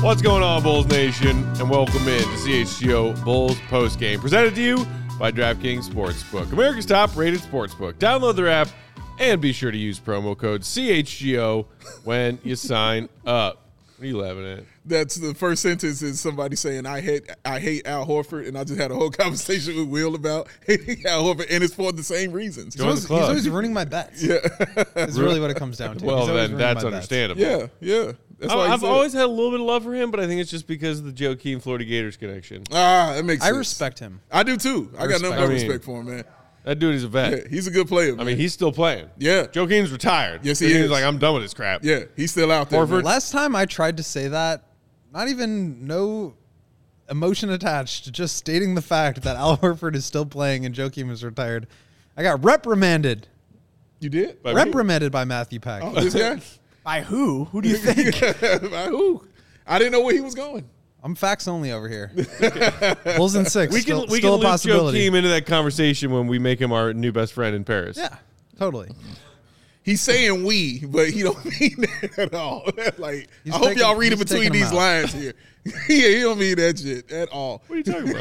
What's going on, Bulls Nation? And welcome in to CHGO Bulls Postgame, presented to you by DraftKings Sportsbook, America's top-rated sportsbook. Download their app and be sure to use promo code CHGO when you sign up. What are you laughing at? That's the first sentence is somebody saying, I hate Al Horford, and I just had a whole conversation with Will about hating Al Horford, and it's for the same reasons. He's always ruining my bets. Yeah. That's really what it comes down to. Well, then that's understandable. Yeah. That's why I've always had a little bit of love for him, but I think it's just because of the Joakim Florida Gators connection. That makes sense. I respect him. I do, too. I got nothing but respect for him, man. That dude is a vet. Yeah, he's a good player, man. I mean, he's still playing. Yeah. Joakim's retired. Yes, he is. He's like, I'm done with this crap. Yeah, he's still out there. Horford. Last time I tried to say that, not even no emotion attached, just stating the fact that Al Horford is still playing and Joakim is retired. I got reprimanded. You did? Reprimanded by Matthew Pack. Oh, this guy? By who? Who do you think? By who? I didn't know where he was going. I'm facts only over here. Bulls in 6. We still can a loop possibility. Joakim into that conversation when we make him our new best friend in Paris. Yeah, totally. He's saying we, but he don't mean that at all. Like, I hope y'all read it he's between taking these him out. lines here. Yeah, he don't mean that shit at all. What are you talking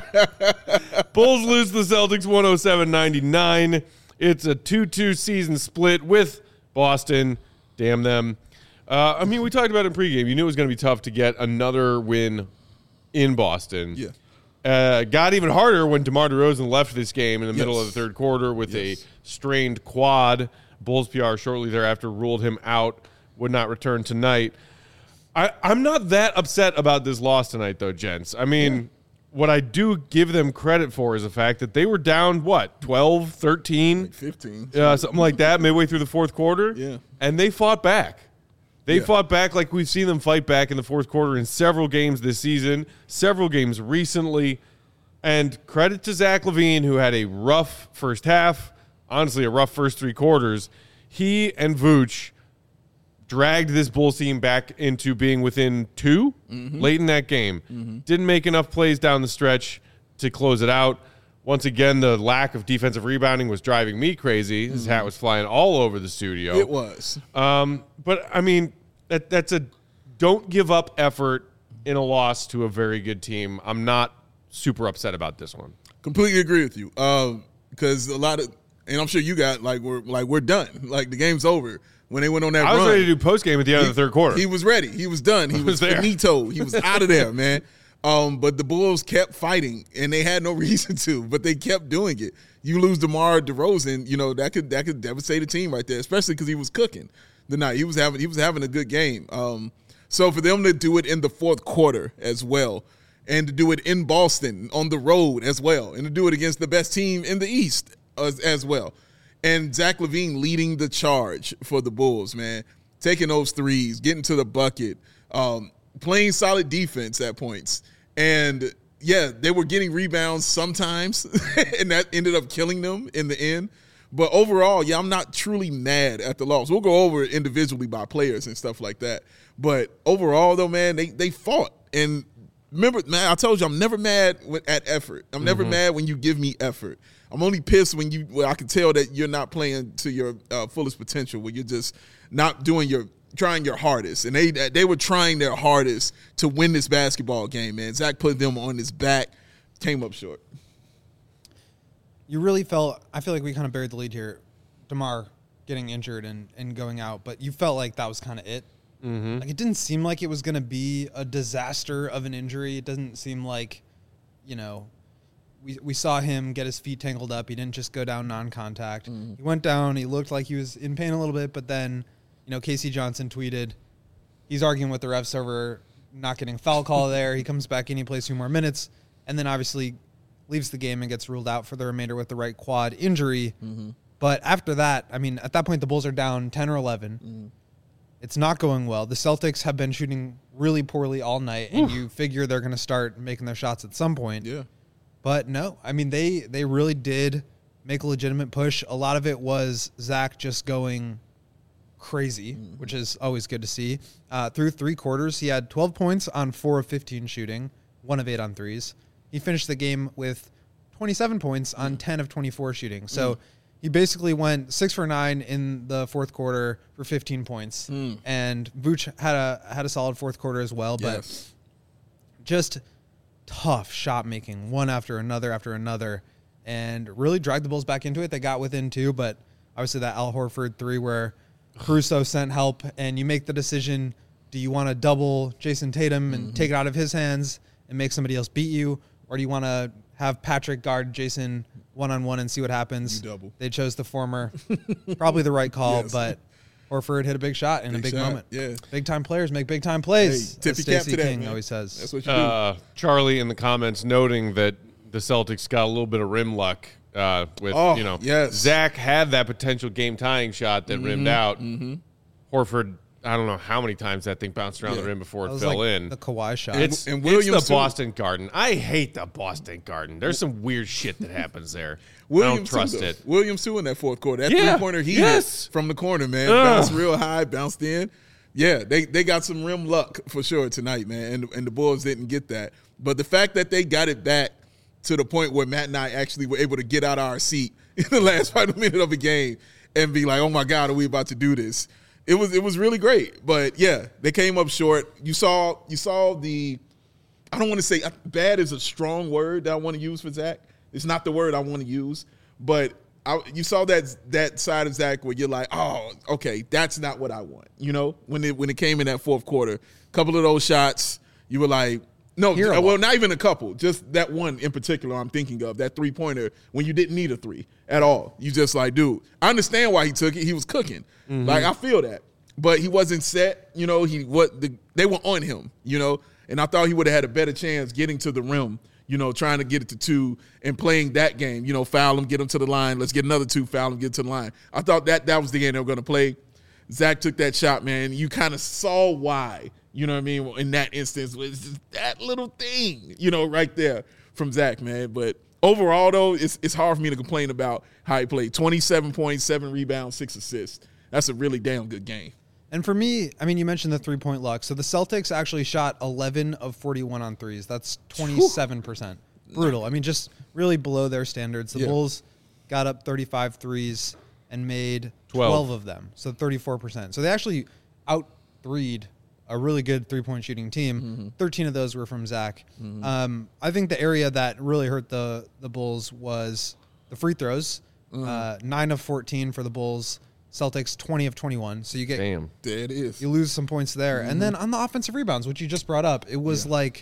about? Bulls lose to the Celtics 107-99. It's a 2-2 season split with Boston. Damn them. I mean, we talked about it in pregame. You knew it was going to be tough to get another win in Boston. Yeah. Got even harder when DeMar DeRozan left this game in the middle of the third quarter with a strained quad. Bulls PR shortly thereafter ruled him out, would not return tonight. I'm not that upset about this loss tonight, though, gents. I mean, what I do give them credit for is the fact that they were down, 12, 13? Like 15. Something like that, midway through the fourth quarter. Yeah. And they fought back. They fought back like we've seen them fight back in the fourth quarter in several games this season, several games recently. And credit to Zach LaVine, who had a rough first half, honestly a rough first three quarters. He and Vooch dragged this Bulls team back into being within 2 late in that game. Didn't make enough plays down the stretch to close it out. Once again, the lack of defensive rebounding was driving me crazy. His hat was flying all over the studio. It was. But, I mean, that's a don't give up effort in a loss to a very good team. I'm not super upset about this one. Completely agree with you. Because a lot of, and I'm sure you got, we're done. Like, the game's over. When they went on that run. I was ready to do postgame at the end of the third quarter. He was ready. He was done. He was there. finito. He was out of there, man. But the Bulls kept fighting, and they had no reason to, but they kept doing it. You lose DeMar DeRozan, you know, that could devastate a team right there, especially because he was cooking the night. He was having a good game. So for them to do it in the fourth quarter as well, and to do it in Boston on the road as well, and to do it against the best team in the East as well. And Zach LaVine leading the charge for the Bulls, man. Taking those threes, getting to the bucket, playing solid defense at points. And, yeah, they were getting rebounds sometimes, and that ended up killing them in the end. But overall, yeah, I'm not truly mad at the loss. We'll go over it individually by players and stuff like that. But overall, though, man, they fought. And remember, man, I told you I'm never mad at effort. I'm never mad when you give me effort. I'm only pissed when I can tell that you're not playing to your fullest potential, where you're just not trying your hardest. And they were trying their hardest to win this basketball game, man. Zach put them on his back, came up short. You really I feel like we kind of buried the lead here. DeMar getting injured and going out, but you felt like that was kind of it. Like, it didn't seem like it was going to be a disaster of an injury. It doesn't seem like, you know, we saw him get his feet tangled up. He didn't just go down non-contact. He went down. He looked like he was in pain a little bit, but then, you know, Casey Johnson tweeted, he's arguing with the refs over not getting a foul call there. He comes back in, he plays 2 more minutes, and then obviously leaves the game and gets ruled out for the remainder with the right quad injury. But after that, I mean, at that point, the Bulls are down 10 or 11. It's not going well. The Celtics have been shooting really poorly all night, and you figure they're going to start making their shots at some point. Yeah. But no, I mean, they really did make a legitimate push. A lot of it was Zach just going crazy, which is always good to see. Through 3 quarters, he had 12 points on 4 of 15 shooting, 1 of 8 on threes. He finished the game with 27 points on 10 of 24 shooting. So he basically went 6 for 9 in the fourth quarter for 15 points. And Vooch had a solid fourth quarter as well, but Yes. just tough shot making, one after another, and really dragged the Bulls back into it. They got within 2, but obviously that Al Horford 3 where Caruso sent help, and you make the decision, do you want to double Jason Tatum and take it out of his hands and make somebody else beat you, or do you want to have Patrick guard Jason one-on-one and see what happens? You double. They chose the former. Probably the right call, Yes. but Horford hit a big shot in a big shot, moment. yeah. Big-time players make big-time plays, Hey, as tippy cap Stacey to that, King man. always says. That's what you do. Charlie in the comments noting that the Celtics got a little bit of rim luck with, yes. Zach had that potential game-tying shot that rimmed out. Horford, I don't know how many times that thing bounced around the rim before That it was fell like in. the Kawhi shot. It's, And it's Williams, the too. Boston Garden. I hate the Boston Garden. There's some weird shit that happens there. I Williams don't trust too, though. it. Williams too in that fourth quarter. That Yeah. three-pointer he Yes. hit from the corner, man. Ugh. Bounced real high, bounced in. Yeah, they got some rim luck for sure tonight, man. And the Bulls didn't get that. But the fact that they got it back to the point where Matt and I actually were able to get out of our seat in the last final minute of a game and be like, oh my God, are we about to do this? It was really great. But yeah, they came up short. You saw the, I don't want to say bad is a strong word that I want to use for Zach. It's not the word I want to use, but you saw that side of Zach where you're like, oh, okay, that's not what I want. You know, when it came in that fourth quarter, a couple of those shots, you were like, no, well, not even a couple, just that one in particular I'm thinking of, that three-pointer when you didn't need a three at all. You just like, dude, I understand why he took it. He was cooking. Like, I feel that. But he wasn't set, you know, they were on him, you know, and I thought he would have had a better chance getting to the rim, you know, trying to get it to 2 and playing that game, you know, foul him, get him to the line, let's get another 2, foul him, get to the line. I thought that was the game they were going to play. Zach took that shot, man. You kind of saw why, you know what I mean, in that instance. Was just that little thing, you know, right there from Zach, man. But overall, though, it's hard for me to complain about how he played. 27 points, 7 rebounds, 6 assists. That's a really damn good game. And for me, I mean, you mentioned the three-point luck. So the Celtics actually shot 11 of 41 on threes. That's 27%. Brutal. I mean, just really below their standards. The Bulls got up 35 threes and made 12 of them, so 34%. So they actually out-threed a really good three-point shooting team. 13 of those were from Zach. I think the area that really hurt the Bulls was the free throws. 9 of 14 for the Bulls. Celtics 20 of 21. So you get Damn. There it is. you lose some points there. And then on the offensive rebounds, which you just brought up, it was like,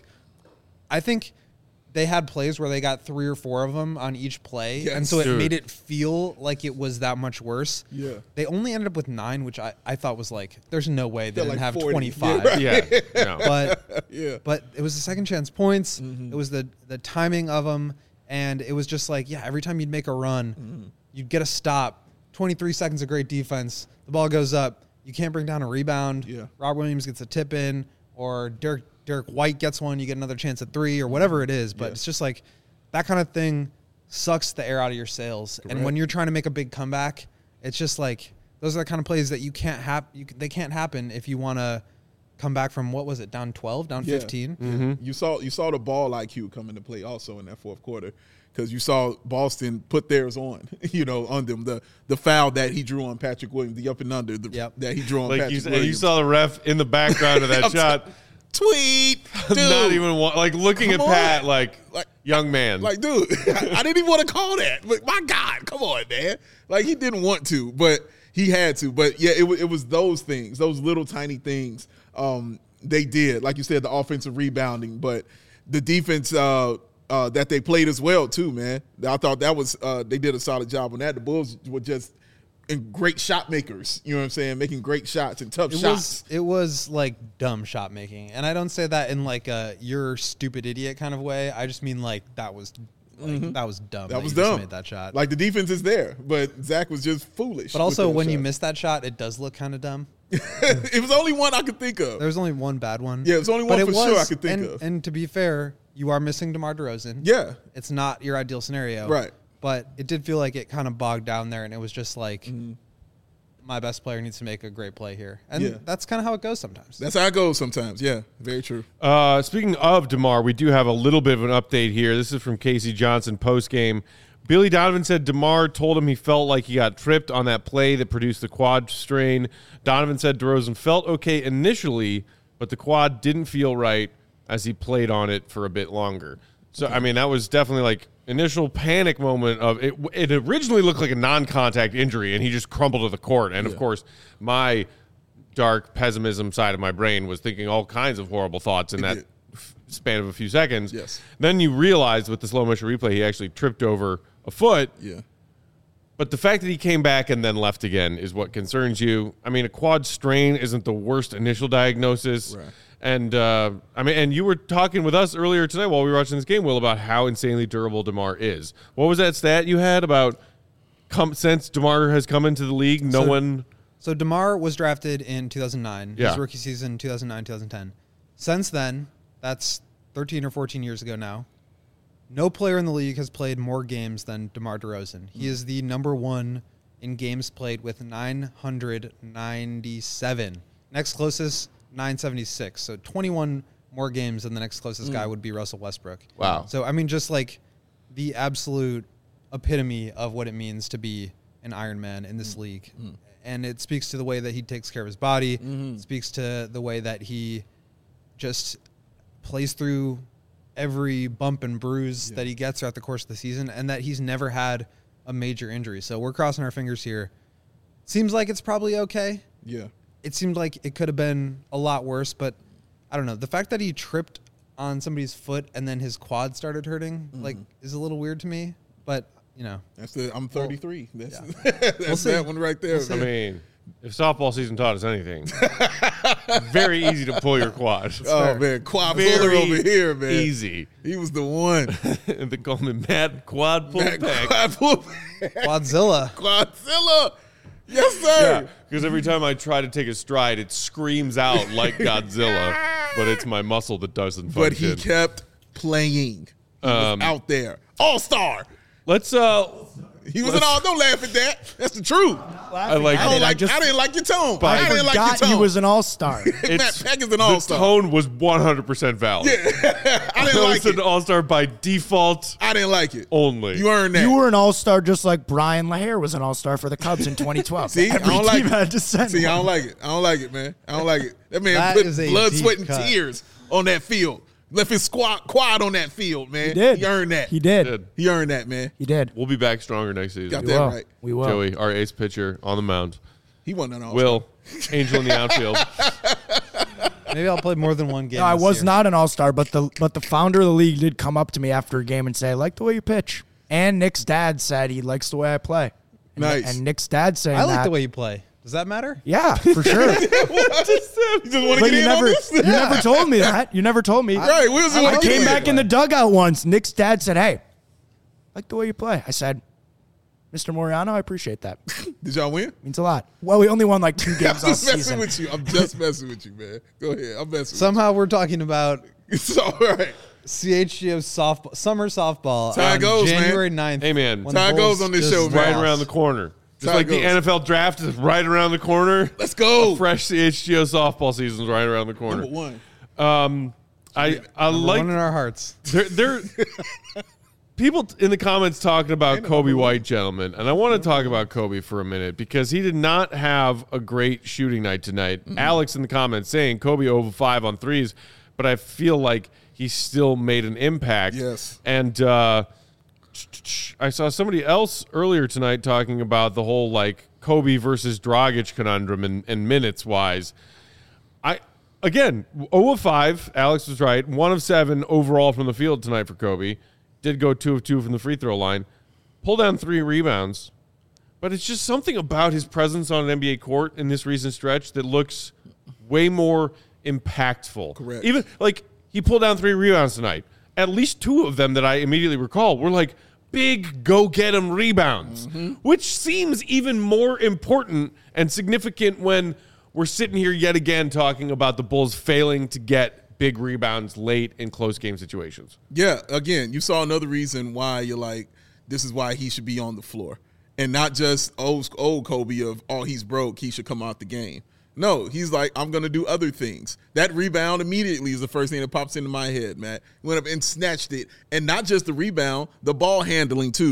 I think they had plays where they got 3 or 4 of them on each play. Yes. And so it Dude. made it feel like it was that much worse. Yeah. They only ended up with 9, which I thought was like, there's no way they They're didn't like have 40. 25. Yeah. No. But Yeah. but it was the second chance points. It was the timing of them. And it was just like, yeah, every time you'd make a run, you'd get a stop. 23 seconds of great defense. The ball goes up. You can't bring down a rebound. Yeah. Rob Williams gets a tip in, or Derek White gets one. You get another chance at 3 or whatever it is. But it's just like that kind of thing sucks the air out of your sails. And when you're trying to make a big comeback, it's just like those are the kind of plays that you can't they can't happen if you want to come back from, what was it, down 12, down 15? You saw the ball IQ come into play also in that fourth quarter, because you saw Boston put theirs on, you know, on them. The foul that he drew on Patrick Williams, the up and under that he drew on Like Patrick you Williams. saw the ref in the background of that shot. Tweet, dude. Not even like looking at Come Pat on. like young man. Like, dude, I didn't even want to call that. But my God, come on, man. Like, he didn't want to, but he had to. But yeah, it was those things, those little tiny things. They did, like you said, the offensive rebounding, but the defense that they played as well too, man. I thought that was they did a solid job on that. The Bulls were just great shot makers. You know what I'm saying? Making great shots and tough shots. It was like dumb shot making, and I don't say that in like a "you're stupid idiot" kind of way. I just mean like that was that was dumb. That was you just dumb. Made that shot. Like, the defense is there, but Zach was just foolish. But also, with when those you shots. miss that shot, it does look kind of dumb. It was only one I could think of. There was only one bad one. Yeah, it was only one But for sure I could think of. And to be fair, you are missing DeMar DeRozan. Yeah. It's not your ideal scenario. Right. But it did feel like it kind of bogged down there, and it was just like, my best player needs to make a great play here. And that's kind of how it goes sometimes. That's how it goes sometimes. Yeah, very true. Speaking of DeMar, we do have a little bit of an update here. This is from Casey Johnson post-game. Billy Donovan said DeMar told him he felt like he got tripped on that play that produced the quad strain. Donovan said DeRozan felt okay initially, but the quad didn't feel right as he played on it for a bit longer. So, I mean, that was definitely like initial panic moment of it. It originally looked like a non-contact injury, and he just crumbled to the court. And, of course, my dark pessimism side of my brain was thinking all kinds of horrible thoughts in that span of a few seconds. Yes. Then you realize with the slow motion replay, he actually tripped over a foot. Yeah. But the fact that he came back and then left again is what concerns you. I mean, a quad strain isn't the worst initial diagnosis. Right. And, and you were talking with us earlier tonight while we were watching this game, Will, about how insanely durable DeMar is. What was that stat you had about since DeMar has come into the league, So DeMar was drafted in 2009, Yeah. his rookie season, 2009, 2010. Since then, that's 13 or 14 years ago now, no player in the league has played more games than DeMar DeRozan. He is the number one in games played with 997. Next closest, 976. So 21 more games than the next closest guy would be Russell Westbrook. Wow. So, I mean, just like the absolute epitome of what it means to be an Iron Man in this league. And it speaks to the way that he takes care of his body. It speaks to the way that he just plays through every bump and bruise that he gets throughout the course of the season, and that he's never had a major injury. So we're crossing our fingers here. Seems like it's probably okay. Yeah. It seemed like it could have been a lot worse, but I don't know. The fact that he tripped on somebody's foot and then his quad started hurting, like, is a little weird to me. But, you know. I'm 33. That's We'll see. that one right there. We'll see. I mean, if softball season taught us anything, very easy to pull your quad. Oh, man. Quad puller over here, man. Easy. He was the one. And they call me Mad Quad Pull That Pack. quad pull. Quadzilla. Quadzilla. Yes, sir. Yeah, because every time I try to take a stride, it screams out like Godzilla, but it's my muscle that doesn't function. But he kept playing. He was out there. All-star. Let's He was an all. Don't laugh at that. That's the truth. I like I it. didn't like your tone. But I I didn't like your Forgot tone. he was an all-star. Matt Peck is an The all-star. tone was 100% valid. I didn't like It's an it. all-star by default I didn't like it. only. You earned that. You were an all-star just like Brian LaHare was an all-star for the Cubs in 2012. See, I Every don't like team it. had to send See, I one. don't like it. I don't like it, man. I don't like it. That man That put is a blood, deep sweat, and cut. tears on that field. Left his quad on that field, man. He did. He earned that. He did. Did. He earned that, man. He did. We'll be back stronger next season. Got We that will. right. We will. Joey, our ace pitcher on the mound. He wasn't an all-star. Will, Angel in the outfield. Maybe I'll play more than one game. No, I this was year. not an all-star, but the founder of the league did come up to me after a game and say, I like the way you pitch. And Nick's dad said he likes the way I play. And, Nice. And Nick's dad saying I like that. the way you play. Does that matter? Yeah, for sure. You just want to But get you in never, on this? you never told me that. You never told me. Right. We was I want to came get back in the dugout once. Nick's dad said, hey, I like the way you play. I said, Mr. Moriano, I appreciate that. Did y'all win? Means a lot. Well, we only won like 2 I'm games all just messing season. with you. I'm just messing with you, man. Go ahead. I'm messing Somehow we're talking about with you. It's all right. CHGO softball, summer softball That's how it on goes, man. January 9th. Hey, man. when That's how the it goes Bulls on this just show, man. Right lost. around the corner. Just how like it the goes. NFL draft is right around the corner. Let's go. Fresh CHGO softball season is right around the corner. Number one. I Number like one in our hearts. there people in the comments talking about Kobe White, gentlemen, and I want to talk about Kobe for a minute because he did not have a great shooting night tonight. Alex in the comments saying Kobe 0 of 5 on threes, but I feel like he still made an impact. Yes. And I saw somebody else earlier tonight talking about the whole like Kobe versus Dragic conundrum and minutes wise. Again, 0 of 5, Alex was right. 1 of 7 overall from the field tonight for Kobe. Did go 2 of 2 from the free throw line. Pulled down 3 rebounds. But it's just something about his presence on an NBA court in this recent stretch that looks way more impactful. Correct. Even like he pulled down 3 rebounds tonight. At least 2 of them that I immediately recall were like big go-get-'em rebounds, which seems even more important and significant when we're sitting here yet again talking about the Bulls failing to get big rebounds late in close game situations. Yeah, again, you saw another reason why you're like, this is why he should be on the floor. And not just old Kobe of, oh, he's broke, he should come out the game. No, he's like, I'm going to do other things. That rebound immediately is the first thing that pops into my head, Matt. He went up and snatched it. And not just the rebound, the ball handling too.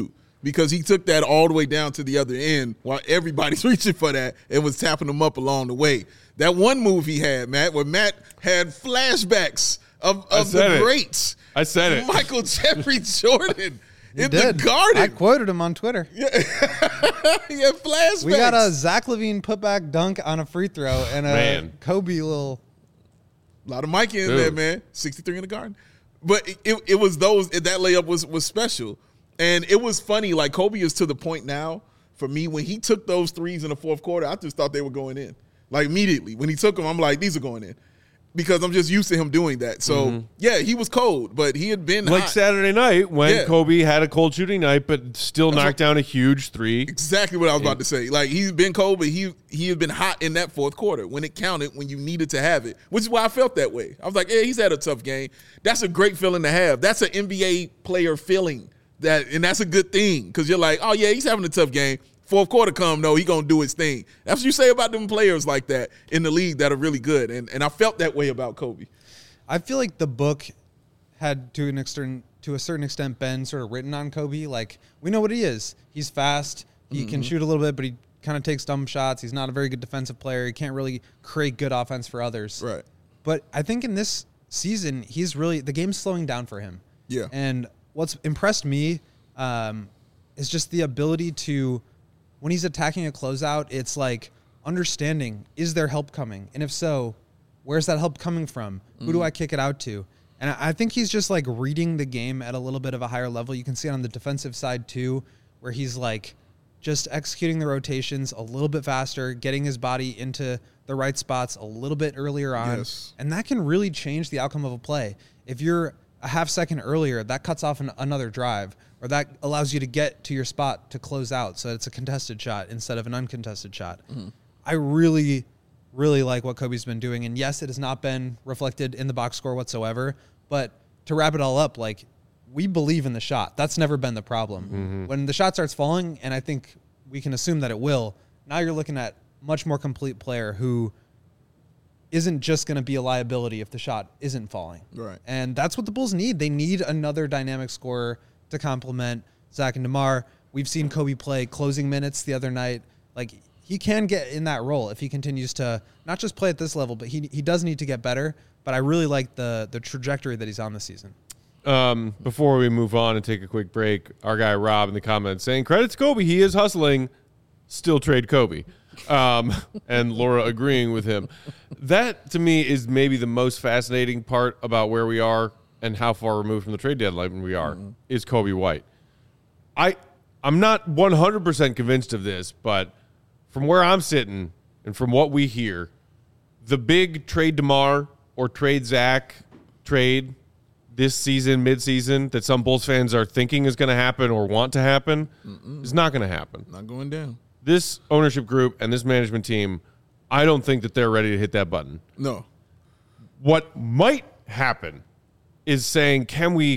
because he took that all the way down to the other end while everybody's reaching for that and was tapping them up along the way. That one move he had, Matt, where Matt had flashbacks of the greats. I said it. Michael Jeffrey Jordan in did. the Garden. I quoted him on Twitter. He had flashbacks. We got a Zach LaVine putback dunk on a free throw and a Kobe little. A lot of Mike in there, man. 63 in the Garden. But it was that layup was special. And it was funny. Like, Kobe is to the point now, for me, when he took those threes in the fourth quarter, I just thought they were going in. Like, immediately. When he took them, I'm like, these are going in. Because I'm just used to him doing that. So, yeah, he was cold, but he had been like hot. Saturday night when Kobe had a cold shooting night, but still knocked down a huge three. Exactly what I was about to say. Like, he's been cold, but he had been hot in that fourth quarter when it counted, when you needed to have it, which is why I felt that way. I was like, yeah, he's had a tough game. That's a great feeling to have. That's an NBA player feeling, and that's a good thing because you're like, oh, yeah, he's having a tough game. Fourth quarter come, no, he going to do his thing. That's what you say about them players like that in the league that are really good. And I felt that way about Kobe. I feel like the book had to a certain extent been sort of written on Kobe. Like, we know what he is. He's fast. He can shoot a little bit, but he kind of takes dumb shots. He's not a very good defensive player. He can't really create good offense for others. Right. But I think in this season, the game's slowing down for him. Yeah. And what's impressed me is just the ability to, when he's attacking a closeout, it's like understanding, is there help coming? And if so, where's that help coming from? Who do I kick it out to? And I think he's just like reading the game at a little bit of a higher level. You can see it on the defensive side too, where he's like just executing the rotations a little bit faster, getting his body into the right spots a little bit earlier on. Yes. And that can really change the outcome of a play. If you're a half second earlier, that cuts off another drive, or that allows you to get to your spot to close out, so it's a contested shot instead of an uncontested shot. I really, really like what Kobe's been doing, and yes, it has not been reflected in the box score whatsoever, but to wrap it all up, like, we believe in the shot. That's never been the problem. When the shot starts falling, and I think we can assume that it will, now you're looking at much more complete player who isn't just going to be a liability if the shot isn't falling. Right. And that's what the Bulls need. They need another dynamic scorer to complement Zach and DeMar. We've seen Kobe play closing minutes the other night. Like, he can get in that role if he continues to not just play at this level, but he does need to get better. But I really like the trajectory that he's on this season. Before we move on and take a quick break, our guy Rob in the comments saying, credits Kobe, he is hustling, still trade Kobe. And Laura agreeing with him. That, to me, is maybe the most fascinating part about where we are and how far removed from the trade deadline we are, is Kobe White. I'm not 100% convinced of this, but from where I'm sitting and from what we hear, the big trade DeMar or trade Zach trade this season, midseason, that some Bulls fans are thinking is going to happen or want to happen is not going to happen. Not going down. This ownership group and this management team, I don't think that they're ready to hit that button. No. What might happen is saying, can we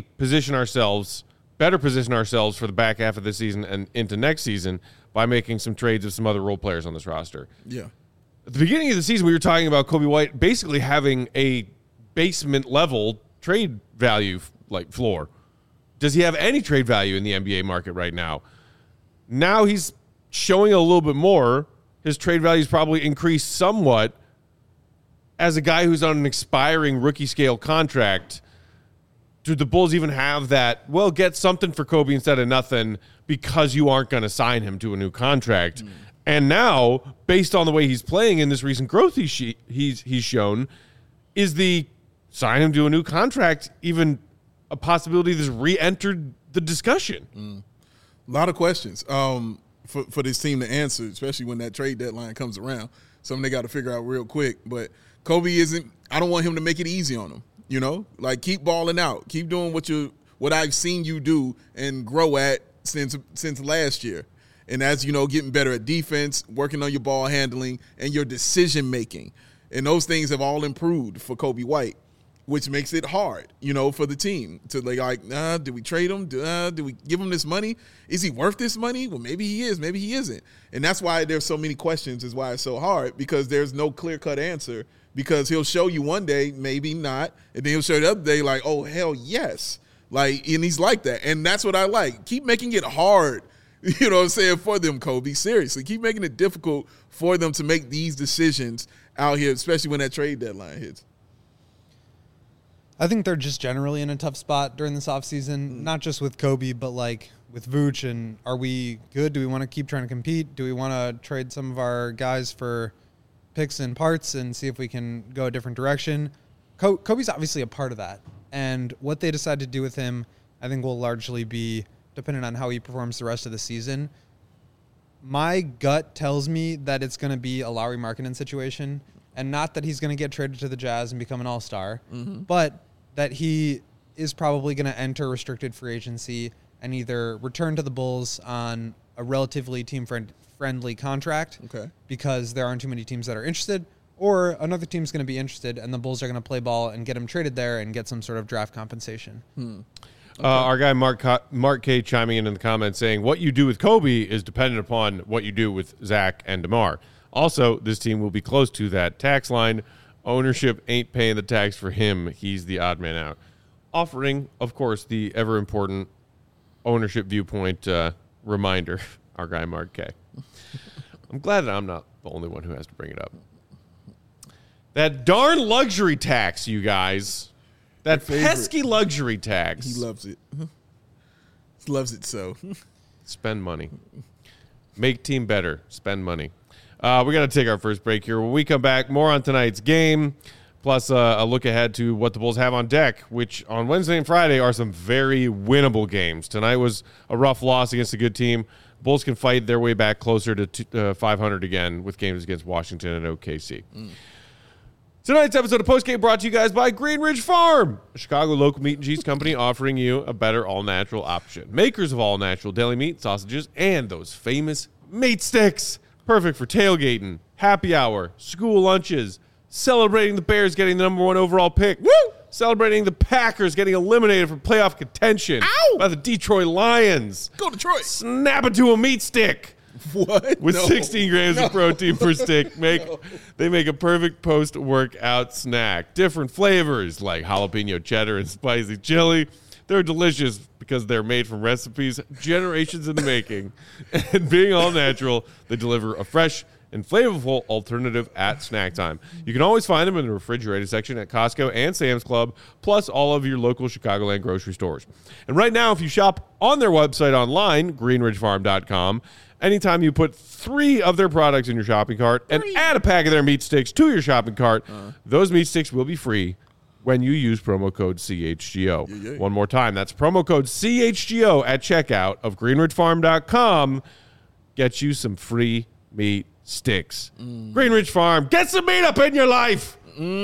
better position ourselves for the back half of this season and into next season by making some trades of some other role players on this roster. Yeah. At the beginning of the season, we were talking about Kobe White basically having a basement level trade value like floor. Does he have any trade value in the NBA market right now? Now he's showing a little bit more. His trade value's probably increased somewhat as a guy who's on an expiring rookie scale contract. Do the Bulls even have that, well, get something for Kobe instead of nothing because you aren't going to sign him to a new contract? And now, based on the way he's playing in this recent growth he's shown, is the sign him to a new contract even a possibility that's re-entered the discussion? A lot of questions for this team to answer, especially when that trade deadline comes around. Something they got to figure out real quick. But Kobe I don't want him to make it easy on him. You know, like, keep balling out, keep doing what I've seen you do and grow at since last year. And as you know, getting better at defense, working on your ball handling and your decision making. And those things have all improved for Kobe White, which makes it hard, you know, for the team to do we trade him? Do we give him this money? Is he worth this money? Well, maybe he is, maybe he isn't. And that's why there's so many questions, is why it's so hard, because there's no clear-cut answer, because he'll show you one day, maybe not, and then he'll show you the other day like, oh, hell yes. Like, and he's like that. And that's what I like. Keep making it hard You know what I'm saying? For them, Kobe. Seriously, keep making it difficult for them to make these decisions out here, especially when that trade deadline hits. I think they're just generally in a tough spot during this offseason, not just with Kobe, but like with Vooch. And are we good? Do we want to keep trying to compete? Do we want to trade some of our guys for picks and parts and see if we can go a different direction? Kobe's obviously a part of that. And what they decide to do with him, I think, will largely be dependent on how he performs the rest of the season. My gut tells me that it's going to be a Lauri Markkanen situation, and not that he's going to get traded to the Jazz and become an all-star, but that he is probably going to enter restricted free agency and either return to the Bulls on a relatively team-friendly contract because there aren't too many teams that are interested, or another team's going to be interested and the Bulls are going to play ball and get him traded there and get some sort of draft compensation. Our guy Mark K chiming in the comments saying, what you do with Kobe is dependent upon what you do with Zach and DeMar. Also, this team will be close to that tax line. Ownership ain't paying the tax for him. He's the odd man out. Offering, of course, the ever-important ownership viewpoint reminder, our guy Mark K. I'm glad that I'm not the only one who has to bring it up. That darn luxury tax, you guys. That pesky luxury tax. He loves it. He loves it so. Spend money. Make team better. Spend money. We got to take our first break here. When we come back, more on tonight's game, plus a look ahead to what the Bulls have on deck, which on Wednesday and Friday are some very winnable games. Tonight was a rough loss against a good team. Bulls can fight their way back closer to 500 again with games against Washington and OKC. Tonight's episode of Postgame brought to you guys by Green Ridge Farm, a Chicago local meat and cheese company offering you a better all-natural option. Makers of all-natural deli meat, sausages, and those famous meat sticks. Perfect for tailgating, happy hour, school lunches, celebrating the Bears getting the #1 overall pick. Woo! Celebrating the Packers getting eliminated from playoff contention by the Detroit Lions. Go Detroit. Snap it to a meat stick. What? With 16 grams of protein per stick, they make a perfect post-workout snack. Different flavors like jalapeno cheddar and spicy chili. They're delicious because they're made from recipes generations in the making. And being all natural, they deliver a fresh and flavorful alternative at snack time. You can always find them in the refrigerated section at Costco and Sam's Club, plus all of your local Chicagoland grocery stores. And right now, if you shop on their website online, greenridgefarm.com, anytime you put 3 of their products in your shopping cart and add a pack of their meat sticks to your shopping cart, those meat sticks will be free when you use promo code CHGO. One more time, that's promo code CHGO at checkout of greenridgefarm.com. Get you some free meat sticks. Greenridge Farm, get some meat up in your life.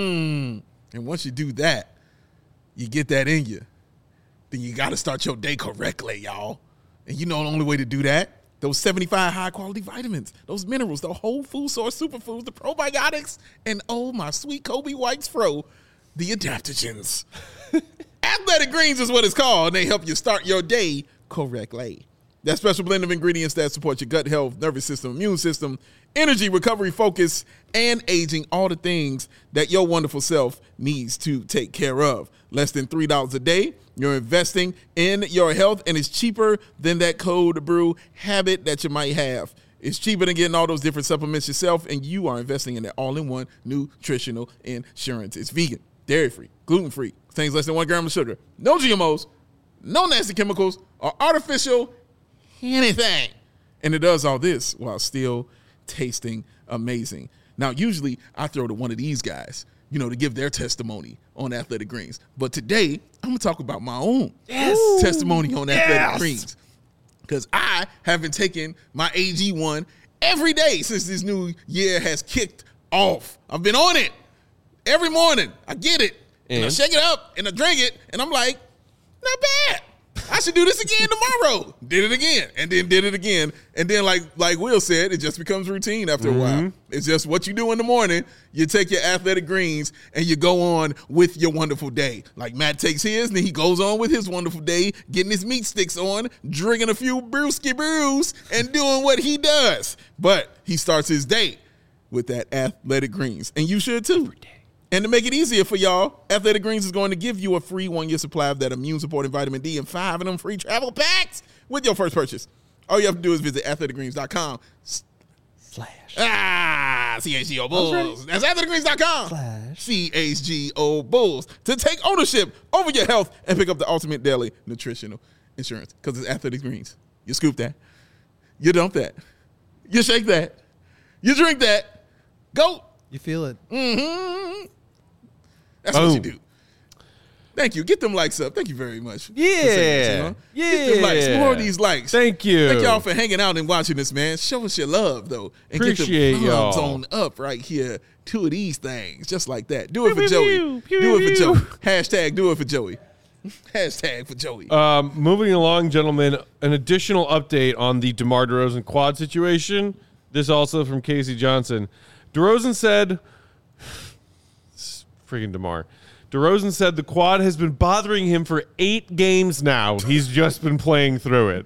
And once you do that, you get that in you. Then you got to start your day correctly, y'all. And you know the only way to do that? Those 75 high-quality vitamins, those minerals, the whole food source superfoods, the probiotics, and oh, my sweet Kobe White's Fro, the adaptogens. Athletic Greens is what it's called, and they help you start your day correctly. That special blend of ingredients that support your gut health, nervous system, immune system, energy, recovery, focus, and aging, all the things that your wonderful self needs to take care of. Less than $3 a day. You're investing in your health, and it's cheaper than that cold brew habit that you might have. It's cheaper than getting all those different supplements yourself, and you are investing in that all-in-one nutritional insurance. It's vegan, dairy-free, gluten-free, contains less than 1 gram of sugar, no GMOs, no nasty chemicals, or artificial anything. And it does all this while still tasting amazing. Now, usually I throw to one of these guys, to give their testimony on Athletic Greens. But today, I'm going to talk about my own testimony on Athletic Greens. Because I have been taking my AG1 every day since this new year has kicked off. I've been on it every morning. I get it, and I shake it up, and I drink it, and I'm like, not bad. I should do this again tomorrow. Did it again, and then did it again. And then, like Will said, it just becomes routine after a while. It's just what you do in the morning. You take your Athletic Greens, and you go on with your wonderful day. Like Matt takes his, and he goes on with his wonderful day, getting his meat sticks on, drinking a few brewski brews, and doing what he does. But he starts his day with that Athletic Greens, and you should too. Every day. And to make it easier for y'all, Athletic Greens is going to give you a free 1-year supply of that immune-supporting vitamin D and 5 of them free travel packs with your first purchase. All you have to do is visit athleticgreens.com. CHGO Bulls. That's athleticgreens.com. CHGO Bulls. To take ownership over your health and pick up the ultimate daily nutritional insurance. Because it's Athletic Greens. You scoop that. You dump that. You shake that. You drink that. Go. You feel it. Mm-hmm. That's what you do. Thank you. Get them likes up. Thank you very much. Yeah. Get them likes. More of these likes. Thank you. Thank y'all for hanging out and watching this, man. Show us your love, though. And Appreciate get the thumbs y'all. on up right here. Two of these things. Just like that. Do it for Joey. Do it for Joey. Hashtag do it for Joey. Hashtag for Joey. Moving along, gentlemen, an additional update on the DeMar DeRozan quad situation. This also from Casey Johnson. DeRozan said, freaking DeMar. DeRozan said the quad has been bothering him for 8 games now. He's just been playing through it.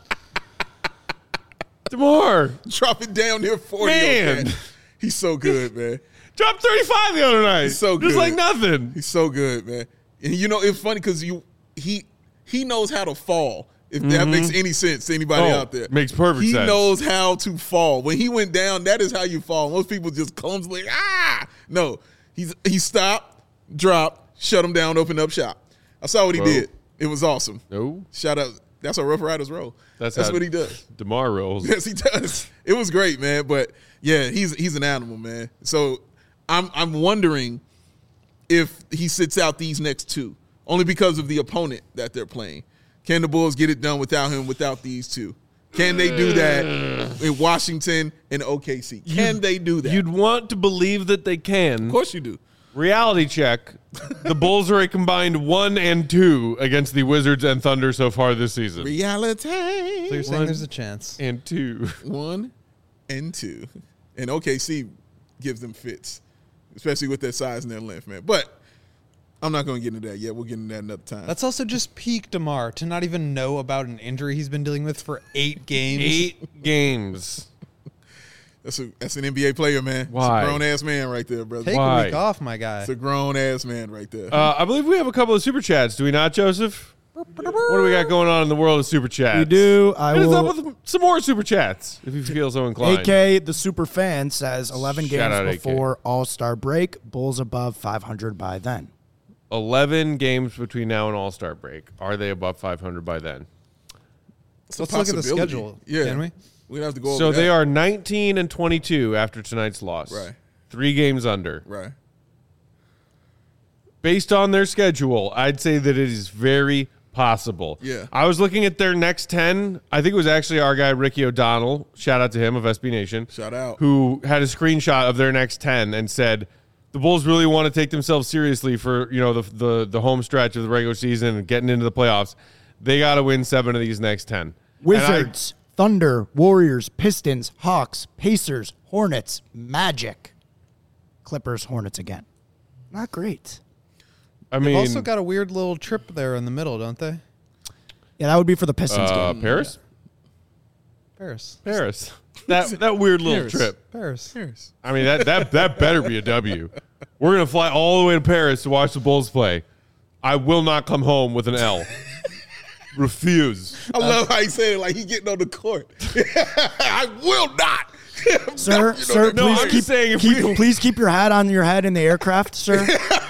DeMar. Drop it down near 40. Man. Okay? He's so good, man. Dropped 35 the other night. He's so good. Just like nothing. He's so good, man. And you know, it's funny because he knows how to fall. If that makes any sense to anybody out there. Makes perfect sense. He knows how to fall. When he went down, that is how you fall. Most people just clumsily, No. He stopped, dropped, shut him down, opened up shop. I saw what he did. It was awesome. No. Shout out. That's how Rough Riders roll. That's what he does. DeMar rolls. Yes, he does. It was great, man. But yeah, he's an animal, man. So I'm wondering if he sits out these next 2, only because of the opponent that they're playing. Can the Bulls get it done without him, without these 2? Can they do that in Washington and OKC? Can they do that? You'd want to believe that they can. Of course you do. Reality check. The Bulls are a combined 1-2 against the Wizards and Thunder so far this season. Reality. So you're saying there's a chance. And 2. 1 and 2. And OKC gives them fits, especially with their size and their length, man. But I'm not going to get into that yet. We'll get into that another time. That's also just peak DeMar to not even know about an injury he's been dealing with for 8 games. 8 games. That's an NBA player, man. Why? It's a grown-ass man right there, brother. Take Why? a week off, my guy. It's a grown-ass man right there. I believe we have a couple of super chats. Do we not, Joseph? What do we got going on in the world of super chats? We do. I Hit us will. up with some more super chats if you feel so inclined. AK, the super fan, says 11 Shout out, games AK. before All-Star break. Bulls above 500 by then. 11 games between now and All-Star break. Are they above 500 by then? It's a Let's look at the possibility. schedule, Yeah. can we? We're going to have to go over So that. they are 19 and 22 after tonight's loss. Right. 3 games under. Right. Based on their schedule, I'd say that it is very possible. Yeah. I was looking at their next 10. I think it was actually our guy, Ricky O'Donnell. Shout out to him of SB Nation. Shout out. Who had a screenshot of their next 10 and said, the Bulls really want to take themselves seriously for, the home stretch of the regular season and getting into the playoffs. They got to win 7 of these next 10. Wizards, Thunder, Warriors, Pistons, Hawks, Pacers, Hornets, Magic, Clippers, Hornets again. Not great. I They've mean, also got a weird little trip there in the middle, don't they? Yeah, that would be for the Pistons game. Paris? Paris. That weird little Paris. trip. Paris. I mean, that better be a W. We're going to fly all the way to Paris to watch the Bulls play. I will not come home with an L. Refuse. I love how he said it like he getting on the court. I will not. Sir, No, I'm just saying if we- please keep your hat on your head in the aircraft, sir.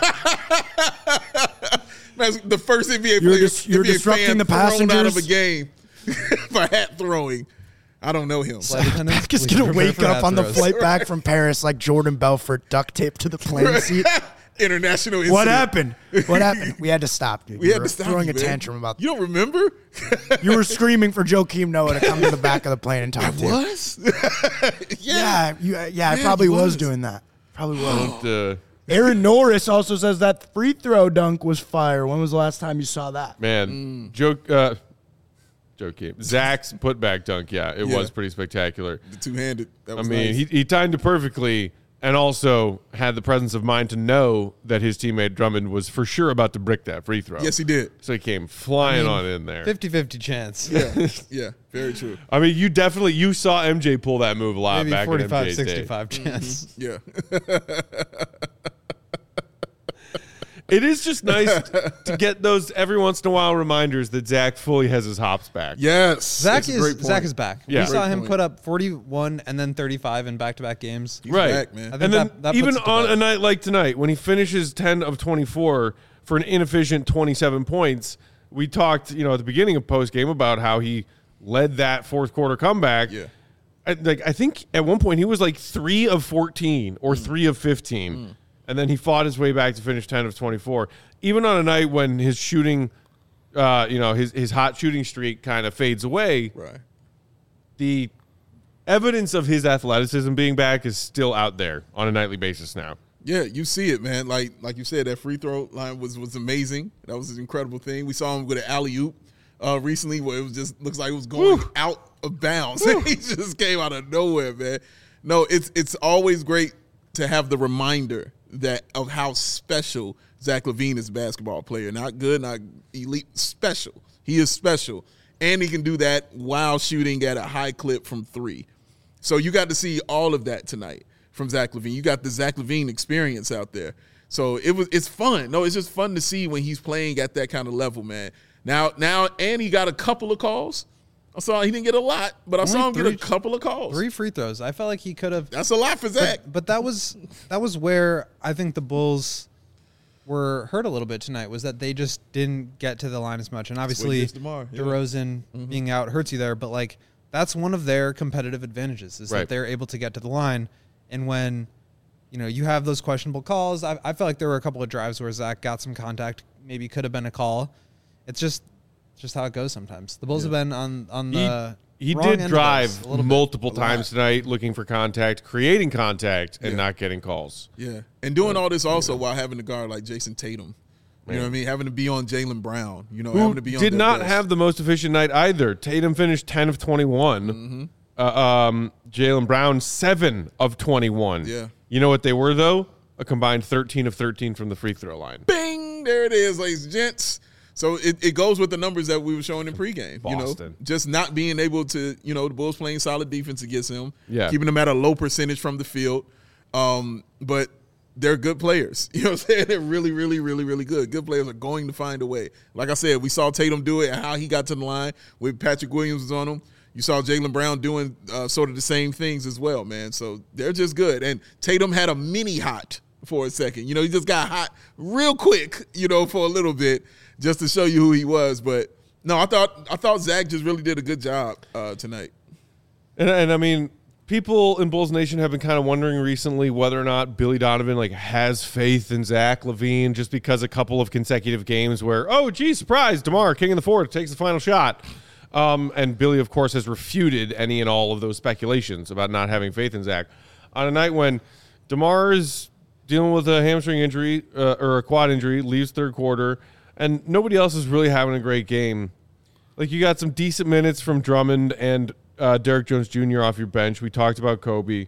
That's the first NBA You're player, you're NBA disrupting fan the thrown out of a passengers. game for hat throwing. I don't know him. Flight attendants, Just please gonna prepare wake for up hat on the throws. flight back from Paris like Jordan Belfort, duct taped to the plane seat. International incident. What happened? What happened? We had to stop, dude. We You had were to stop throwing you, a man. tantrum about. You don't remember? You were screaming for Joakim Noah to come to the back of the plane and talk to you. Was? Yeah, I probably he was was. doing that. Probably was. Man, Aaron Norris also says that free throw dunk was fire. When was the last time you saw that? Joakim. Zach's putback dunk, it was pretty spectacular. The two-handed. That I was mean, nice. he timed it perfectly and also had the presence of mind to know that his teammate Drummond was for sure about to brick that free throw. Yes, he did. So he came flying on in there. 50-50 chance. Yeah, very true. I mean, you saw MJ pull that move a lot Maybe back in MJ's day. 45-65 chance. Yeah. It is just nice to get those every once in a while reminders that Zach fully has his hops back. Yes. Zach that's a great point. is back. Yeah. We saw Great him point. put up 41 and then 35 in back-to-back games. He's Right. back, man. I think And then that even puts it to on bed. a night like tonight, when he finishes 10 of 24 for an inefficient 27 points, we talked, at the beginning of postgame about how he led that fourth quarter comeback. Yeah. I think at one point he was like 3 of 14 or 3 of 15. And then he fought his way back to finish 10 of 24. Even on a night when his shooting, his hot shooting streak kind of fades away, Right. the evidence of his athleticism being back is still out there on a nightly basis now. Yeah, you see it, man. Like you said, that free throw line was amazing. That was an incredible thing. We saw him with an alley-oop recently where it was just looks like it was going out of bounds. He just came out of nowhere, man. No, it's always great to have the reminder of how special Zach LaVine is a basketball player. Not good, not elite, special. He is special. And he can do that while shooting at a high clip from three. So you got to see all of that tonight from Zach LaVine. You got the Zach LaVine experience out there. So it's fun. No, it's just fun to see when he's playing at that kind of level, man. Now, and he got a couple of calls. I saw he didn't get a lot, but I saw him get a couple of calls. 3 free throws. I felt like he could have. That's a lot for Zach. But that was where I think the Bulls were hurt a little bit tonight, was that they just didn't get to the line as much. And obviously, against DeMar, yeah. DeRozan being out hurts you there. But, like, that's one of their competitive advantages is that they're able to get to the line. And when, you have those questionable calls, I felt like there were a couple of drives where Zach got some contact, maybe could have been a call. It's just how it goes sometimes. The Bulls have been on the He wrong end did of drive this a little bit. multiple times tonight looking for contact, creating contact, and not getting calls. Yeah, and doing all this also while having to guard like Jason Tatum. You know what I mean? Having to be on Jaylen Brown. Having to be on did their not best. have the most efficient night either. Tatum finished 10 of 21. Jaylen Brown, 7 of 21. Yeah. You know what they were, though? A combined 13 of 13 from the free throw line. Bing! There it is, ladies and gents. So it goes with the numbers that we were showing in pregame. Boston. Just not being able to, the Bulls playing solid defense against him. Yeah. Keeping them at a low percentage from the field. But they're good players. You know what I'm saying? They're really, really, really, really good. Good players are going to find a way. Like I said, we saw Tatum do it and how he got to the line with Patrick Williams was on him. You saw Jaylen Brown doing sort of the same things as well, man. So they're just good. And Tatum had a mini hot for a second. He just got hot real quick, for a little bit just to show you who he was. But no, I thought Zach just really did a good job tonight. And I mean, people in Bulls Nation have been kind of wondering recently whether or not Billy Donovan has faith in Zach LaVine just because a couple of consecutive games where, oh, gee, surprise, DeMar, king of the fourth, takes the final shot. And Billy, of course, has refuted any and all of those speculations about not having faith in Zach. On a night when DeMar is dealing with a hamstring injury or a quad injury, leaves third quarter, and nobody else is really having a great game. Like, you got some decent minutes from Drummond and Derek Jones Jr. off your bench. We talked about Kobe.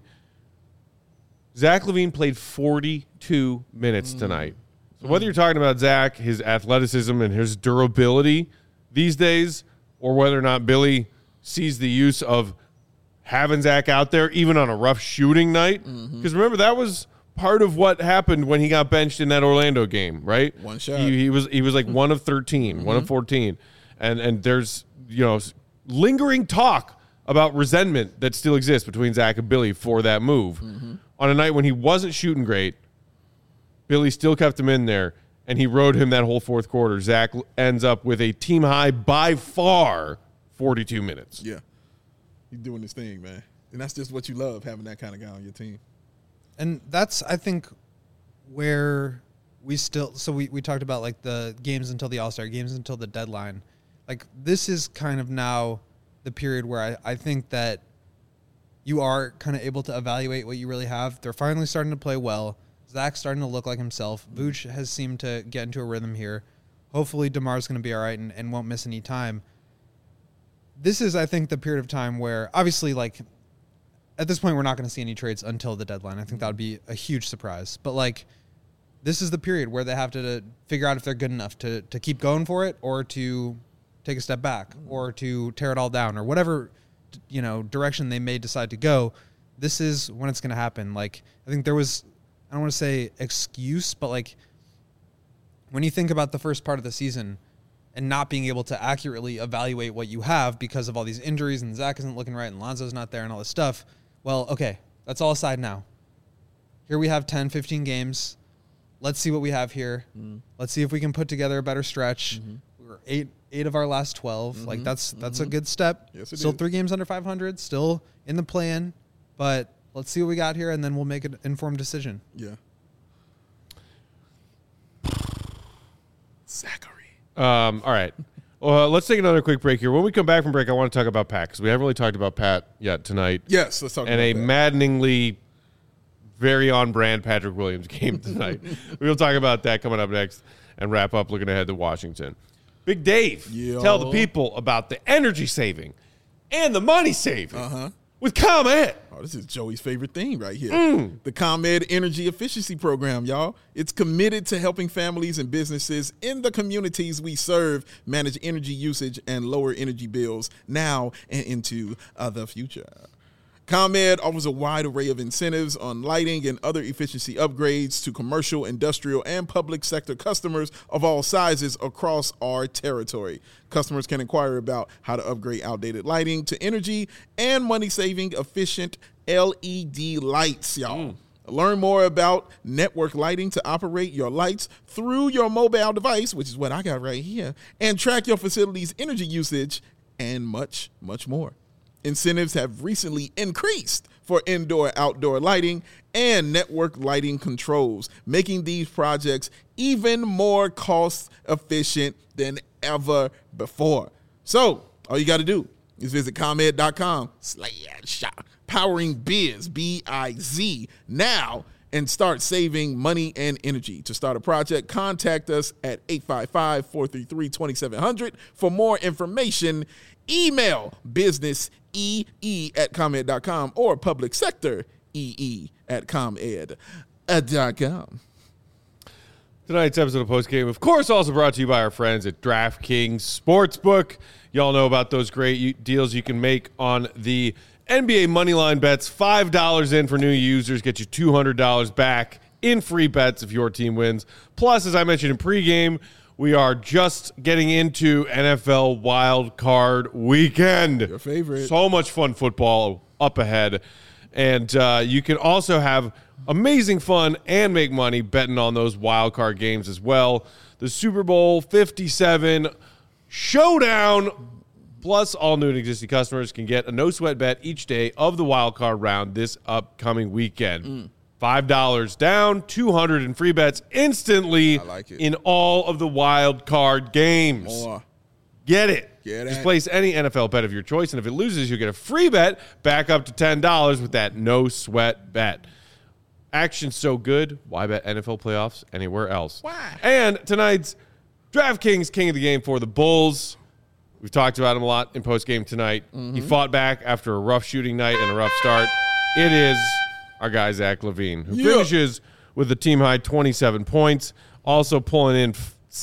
Zach LaVine played 42 minutes tonight. So whether you're talking about Zach, his athleticism, and his durability these days, or whether or not Billy sees the use of having Zach out there, even on a rough shooting night. Because remember, that was part of what happened when he got benched in that Orlando game, right? One shot. He was like 1 of 13, 1 of 14. And there's, lingering talk about resentment that still exists between Zach and Billy for that move. On a night when he wasn't shooting great, Billy still kept him in there, and he rode him that whole fourth quarter. Zach ends up with a team high, by far, 42 minutes. Yeah. He's doing his thing, man. And that's just what you love, having that kind of guy on your team. And that's, I think, where we still – so we talked about, like, the games until the All-Star, games until the deadline. Like, this is kind of now the period where I think that you are kind of able to evaluate what you really have. They're finally starting to play well. Zach's starting to look like himself. Vooch has seemed to get into a rhythm here. Hopefully DeMar's going to be all right and won't miss any time. This is, I think, the period of time where, obviously, like, at this point, we're not going to see any trades until the deadline. I think that would be a huge surprise. But, like, this is the period where they have to figure out if they're good enough to keep going for it or to take a step back or to tear it all down or whatever, direction they may decide to go. This is when it's going to happen. Like, I think there was, I don't want to say excuse, but, like, when you think about the first part of the season and not being able to accurately evaluate what you have because of all these injuries and Zach isn't looking right and Lonzo's not there and all this stuff, well, okay, that's all aside now. Here we have 10, 15 games. Let's see what we have here. Let's see if we can put together a better stretch. We're eight of our last 12. Like that's a good step. Yes, it still is. 3 games under 500, still in the play-in, but let's see what we got here, and then we'll make an informed decision. Yeah. Zachary. All right. Well, let's take another quick break here. When we come back from break, I want to talk about Pat because we haven't really talked about Pat yet tonight. Yes, let's talk And about a that. maddeningly very on-brand Patrick Williams game tonight. We'll talk about that coming up next and wrap up looking ahead to Washington. Big Dave, Yo. tell the people about the energy saving and the money saving with ComEd. Oh, this is Joey's favorite thing right here. The ComEd Energy Efficiency Program, y'all. It's committed to helping families and businesses in the communities we serve manage energy usage and lower energy bills now and into the future. ComEd offers a wide array of incentives on lighting and other efficiency upgrades to commercial, industrial, and public sector customers of all sizes across our territory. Customers can inquire about how to upgrade outdated lighting to energy and money-saving efficient LED lights, y'all. Learn more about network lighting to operate your lights through your mobile device, which is what I got right here, and track your facility's energy usage and much, much more. Incentives have recently increased for indoor-outdoor lighting and network lighting controls, making these projects even more cost-efficient than ever before. So, all you got to do is visit ComEd.com/powering biz, B-I-Z, now and start saving money and energy. To start a project, contact us at 855-433-2700. For more information, email businessee@comed.com or public sector ee@comed.com. Tonight's episode of Postgame, of course, also brought to you by our friends at DraftKings Sportsbook. Y'all know about those great deals you can make on the NBA Moneyline bets. $5 in for new users get you $200 back in free bets if your team wins. Plus, as I mentioned in pregame, we are just getting into NFL Wild Card Weekend. Your favorite. So much fun football up ahead. And you can also have amazing fun and make money betting on those wild card games as well. The Super Bowl 57 Showdown, plus all new and existing customers can get a no-sweat bet each day of the wild card round this upcoming weekend. $5 down, $200 in free bets instantly I like it. in all of the wild card games. More. Get it. Get Just it. place any NFL bet of your choice, and if it loses, you get a free bet back up to $10 with that no-sweat bet. Action's so good, why bet NFL playoffs anywhere else? Why? And tonight's DraftKings King of the Game for the Bulls. We've talked about him a lot in postgame tonight. He fought back after a rough shooting night and a rough start. It is our guy, Zach LaVine, who finishes with a team-high 27 points, also pulling in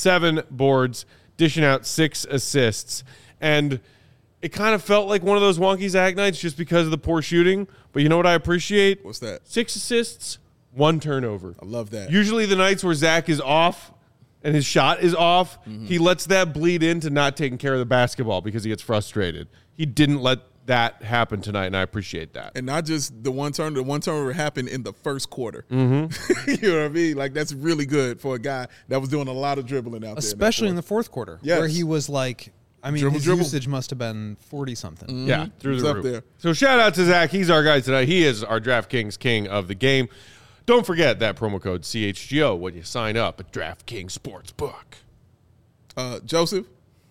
7 boards, dishing out 6 assists. And it kind of felt like one of those wonky Zach nights just because of the poor shooting. But you know what I appreciate? What's that? 6 assists, 1 turnover. I love that. Usually the nights where Zach is off and his shot is off, he lets that bleed into not taking care of the basketball because he gets frustrated. He didn't let that happen tonight, and I appreciate that. And not just the one turnover happened in the first quarter. You know what I mean? Like, that's really good for a guy that was doing a lot of dribbling out Especially in there. the fourth quarter, Yes. where he was like, I mean, Dribble, his dribble. usage must have been 40-something. Yeah, through He's the up roof. there. So shout out to Zach. He's our guy tonight. He is our DraftKings King of the game. Don't forget that promo code CHGO when you sign up at DraftKings Sportsbook. Joseph?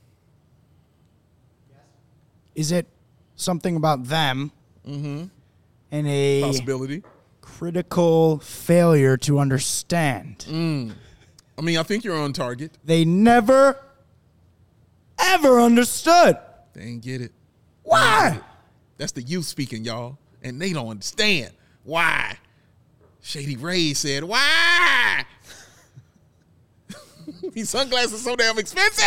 Is it something about them and a Possibility. critical failure to understand? I mean, I think you're on target. They never, ever understood. They ain't get it. Why? That's the youth speaking, y'all. And they don't understand. Why? Shady Ray said, why? These sunglasses are so damn expensive.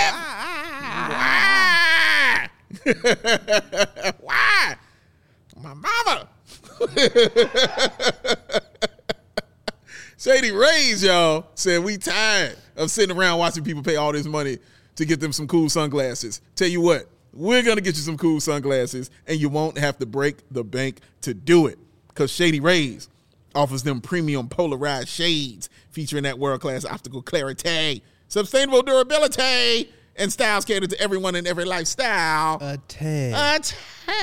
Why? Why? My mama. Shady Rays, y'all, said we tired. of sitting around watching people pay all this money to get them some cool sunglasses. Tell you what, we're going to get you some cool sunglasses, and you won't have to break the bank to do it, because Shady Rays offers them premium polarized shades featuring that world-class optical clarity, sustainable durability, and styles cater to everyone in every lifestyle. Best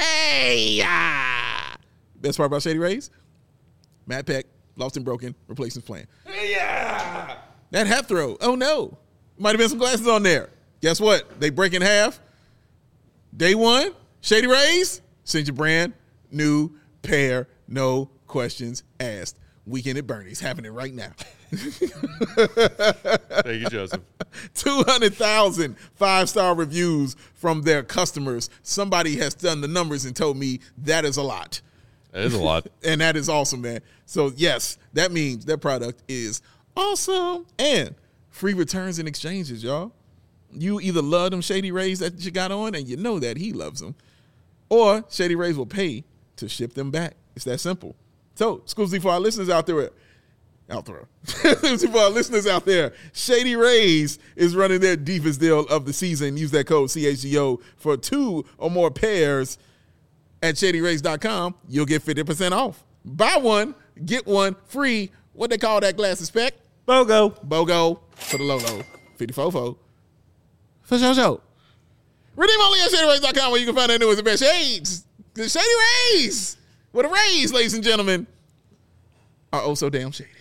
part about Shady Rays? Matt Peck, lost and broken, replacements plan. Yeah. That half throw, oh no. Might have been some glasses on there. Guess what? They break in half. Day one, Shady Rays, send your brand new pair, no questions asked. Weekend at Bernie's, happening right now. Thank you, Joseph. 200,000 5-star reviews from their customers. Somebody has done the numbers and told me that is a lot. That is a lot. And that is awesome, man. So, yes, that means that product is awesome. And free returns and exchanges, y'all. You either love them Shady Rays that you got on and you know that he loves them, or Shady Rays will pay to ship them back. It's that simple. So, exclusively for our listeners out there, exclusively for our listeners out there, Shady Rays is running their deepest deal of the season. Use that code CHGO for 2 or more pairs at ShadyRays.com. You'll get 50% off. Buy one, get one free. What they call that glasses spec? BOGO for the Lolo. 54 for show. Redeem only at ShadyRays.com, where you can find that newest and best shades. The Shady Rays. What a rays, ladies and gentlemen, are oh so damn shady.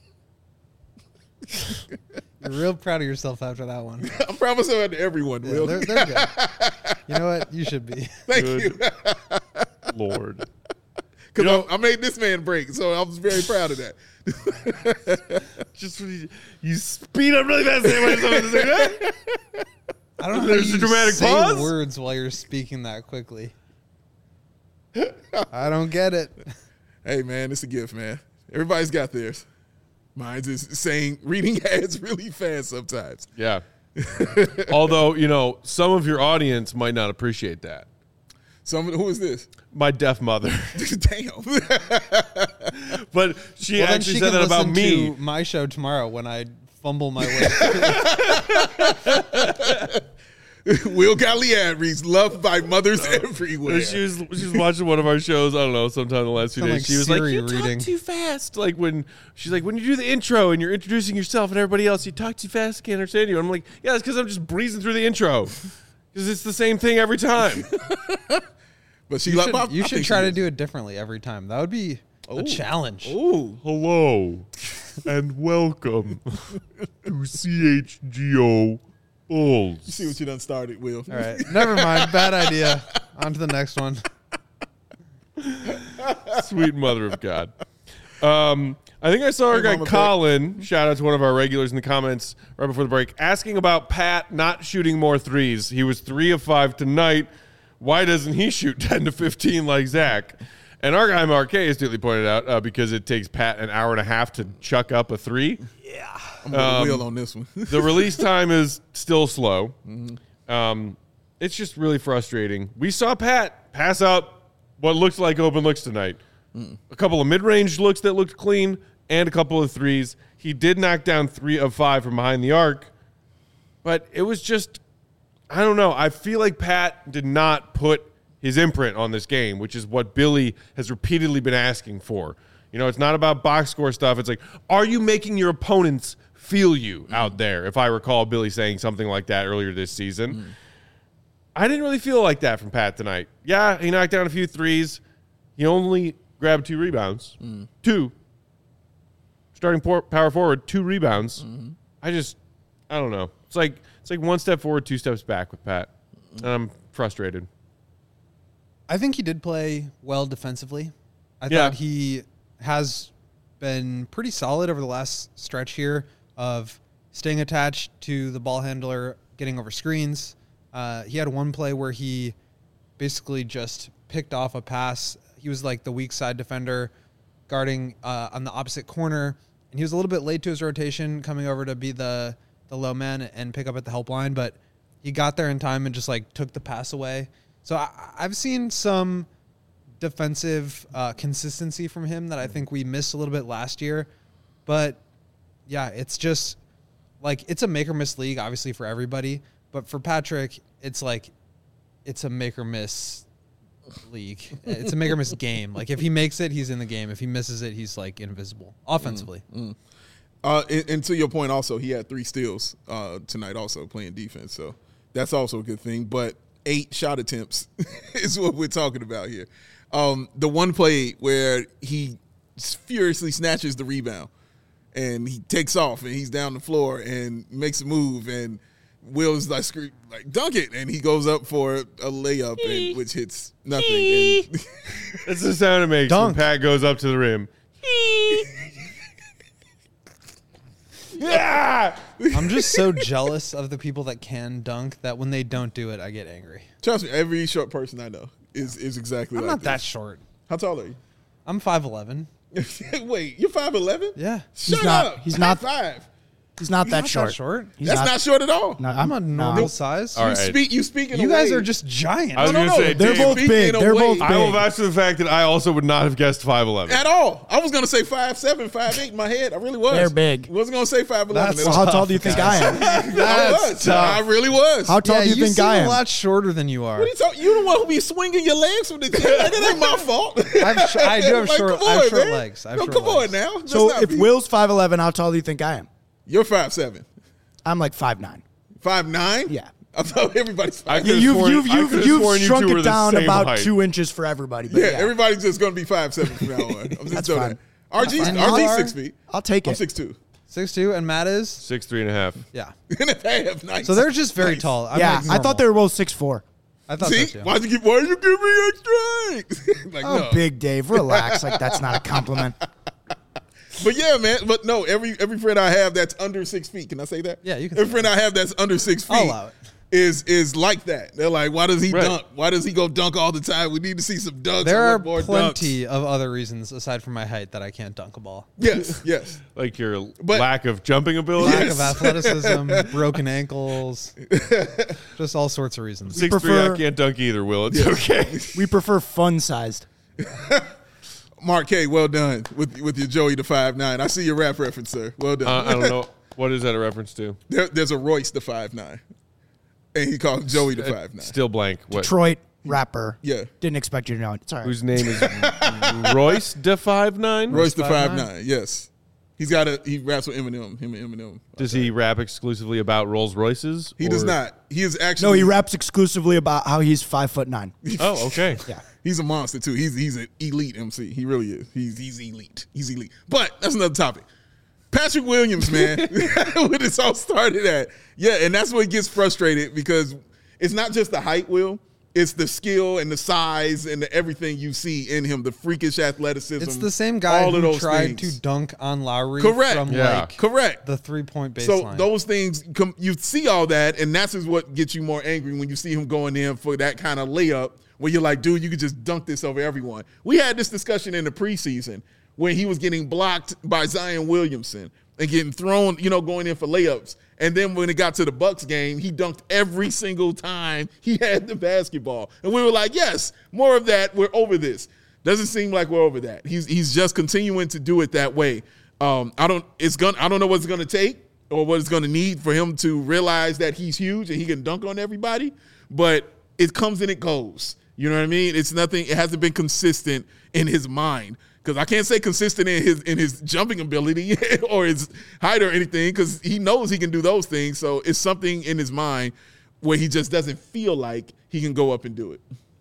You're real proud of yourself after that one. I'm proud of myself to everyone, Yeah, Will. they're good. You know what? You should be. Thank Good you. Lord. Because I made this man break, so I was very proud of that. Just when you speed up really fast. I don't know how There's you a dramatic say pause? words while you're speaking that quickly. I don't get it. Hey, man, it's a gift, man. Everybody's got theirs. Mine's is reading ads really fast sometimes. Yeah. Although, you know, some of your audience might not appreciate that. Who is this? My deaf mother. Damn. But she Well, then actually she said can that about listen me. to my show tomorrow when I fumble my way through. Will Galliard reads loved by mothers everywhere. She was watching one of our shows, I don't know, sometime in the last few Sound days. like She was Siri like, you reading. talk too fast. Like when you do the intro and you're introducing yourself and everybody else, you talk too fast, I can't understand you. And I'm like, yeah, that's because I'm just breezing through the intro. Because it's the same thing every time. But she You should try to do it differently every time. That would be a challenge. Ooh. Hello and welcome to CHGO Bulls. You see what you done started, Will. All right. Never mind. Bad idea. On to the next one. Sweet mother of God. I think I saw our Hey, guy Mama Colin, shout out to one of our regulars in the comments right before the break, asking about Pat not shooting more threes. He was 3 of 5 tonight. Why doesn't he shoot 10 to 15 like Zach? And our guy Marquet astutely pointed out because it takes Pat an hour and a half to chuck up a 3. I'm going to Will on this one. The release time is still slow. It's just really frustrating. We saw Pat pass up what looked like open looks tonight. A couple of mid-range looks that looked clean and a couple of threes. He did knock down 3 of 5 from behind the arc, but it was just, I don't know. I feel like Pat did not put his imprint on this game, which is what Billy has repeatedly been asking for. You know, it's not about box score stuff. It's like, are you making your opponents feel you out there? If I recall Billy saying something like that earlier this season. I didn't really feel like that from Pat tonight. Yeah, he knocked down a few threes. He only grabbed 2 rebounds. 2. Starting power forward, 2 rebounds. I don't know. It's like 1 step forward, 2 steps back with Pat. And I'm frustrated. I think he did play well defensively. I Yeah. thought he has been pretty solid over the last stretch here of staying attached to the ball handler, getting over screens. He had one play where he basically just picked off a pass. He was like the weak side defender guarding on the opposite corner, and he was a little bit late to his rotation, coming over to be the low man and pick up at the help line, but he got there in time and just like took the pass away. So I've seen some defensive consistency from him that I think we missed a little bit last year. But, yeah, it's just like it's a make or miss league, obviously for everybody, but for Patrick, it's like it's a make or miss league. It's a make or miss game. Like if he makes it, he's in the game. If he misses it, he's like invisible offensively. And to your point, also he had 3 steals tonight, also playing defense. So that's also a good thing. But 8 shot attempts is what we're talking about here. The one play where he furiously snatches the rebound and he takes off and he's down the floor and makes a move and Will is like scream like dunk it, and he goes up for a layup, and, which hits nothing. And That's the sound it makes Dunk. when Pat goes up to the rim. Yeah. I'm just so jealous of the people that can dunk that when they don't do it, I get angry. trust me, every short person I know is exactly I'm like not that this. short. How tall are you? I'm 5'11". Wait, you're 5'11"? Yeah. Shut not- up. he's not- High 5. He's not that not short. that short. He's That's not short at all. No, I'm a normal size. All right. You speak in You a guys way- are just giant. I was No, going no, to say, They're Dave, both Speak big. in a They're way- both big. I will vouch for the fact that I also would not have guessed 5'11". at all. I was going to say 5'7", 5'8" in my head. I really was. They're big. I wasn't going to say 5'11". That's at Well, all. how tall do you think I am? I was. I really was. How tall yeah, do you think seem I a am? lot shorter than you are. What are you talking? You the one who be swinging your legs from the gym. Like, that ain't my fault. I do have Like, short- come I have on, short man. legs. I have No, short come on legs. now. Let's So not if be- Will's 5'11", how tall do you think I am? You're 5'7", I'm like 5'9". 5'9". Yeah. I thought everybody's I 5'9". could've You've sworn- I could've sworn you shrunk two were it the down same about height. 2 inches for everybody. But Yeah, yeah, everybody's just going to be 5'7" from now on. I'm just That's doing fine. that. RG's And you are? 6 feet. I'll take I'm it. 6'2". 6'2", and Matt is 6'3.5". yeah. And a half. Nice. So they're just very Nice. tall. I'm Yeah, like I thought they were both 6'4". I thought See, so too. why you give me extra? Like, Oh, no. big Dave, relax. Like that's not a compliment. But yeah, man. But no, every friend I have that's under 6 feet. Can I say that? Yeah, you can Every say friend I have that's under 6 feet I'll allow it. is like that. They're like, why does he Right. dunk? Why does he go dunk all the time? We need to see some dunks. There I are want more plenty dunks. of other reasons aside from my height that I can't dunk a ball. Yes, yes. Like your But- lack of jumping ability. Lack Yes. of athleticism, broken ankles, just all sorts of reasons. 6'3", prefer- I can't dunk either, Will. It's okay. We prefer fun-sized. Mark K, well done with your Joey the 5'9". I see your rap reference, sir. Well done. I don't know. What is that a reference to? There's a Royce the 5'9", and he called Joey the 5'9". Still blank. What? Detroit rapper. Yeah. Didn't expect you to know it. It's all right. Whose name is Royce de 5'9"? Royce the 5'9"? 5'9". Yes. He raps with Eminem. Him and Eminem. Does he rap exclusively about Rolls Royces? He does or- not. He is actually. No, he raps exclusively about how he's 5'9". Oh, okay. Yeah. He's a monster too. He's an elite MC. He really is. He's elite. He's elite. But that's another topic. Patrick Williams, man, where this all started at. Yeah, and that's what gets frustrated because it's not just the height, Will. It's the skill and the size and the everything you see in him, the freakish athleticism. It's the same guy all of who those tried things. to dunk on Lowry Correct. from Yeah. like Correct. the 3-point baseline. So those things, you see all that, and that's is what gets you more angry when you see him going in for that kind of layup where you're like, dude, you could just dunk this over everyone. We had this discussion in the preseason when he was getting blocked by Zion Williamson and getting thrown, going in for layups. And then when it got to the Bucks game, he dunked every single time he had the basketball. And we were like, yes, more of that. We're over this. Doesn't seem like we're over that. He's just continuing to do it that way. I don't know what it's gonna take or what it's gonna need for him to realize that he's huge and he can dunk on everybody. But it comes and it goes. You know what I mean? It's nothing. It hasn't been consistent in his mind. Because I can't say consistent in his jumping ability or his height or anything because he knows he can do those things. So it's something in his mind where he just doesn't feel like he can go up and do it.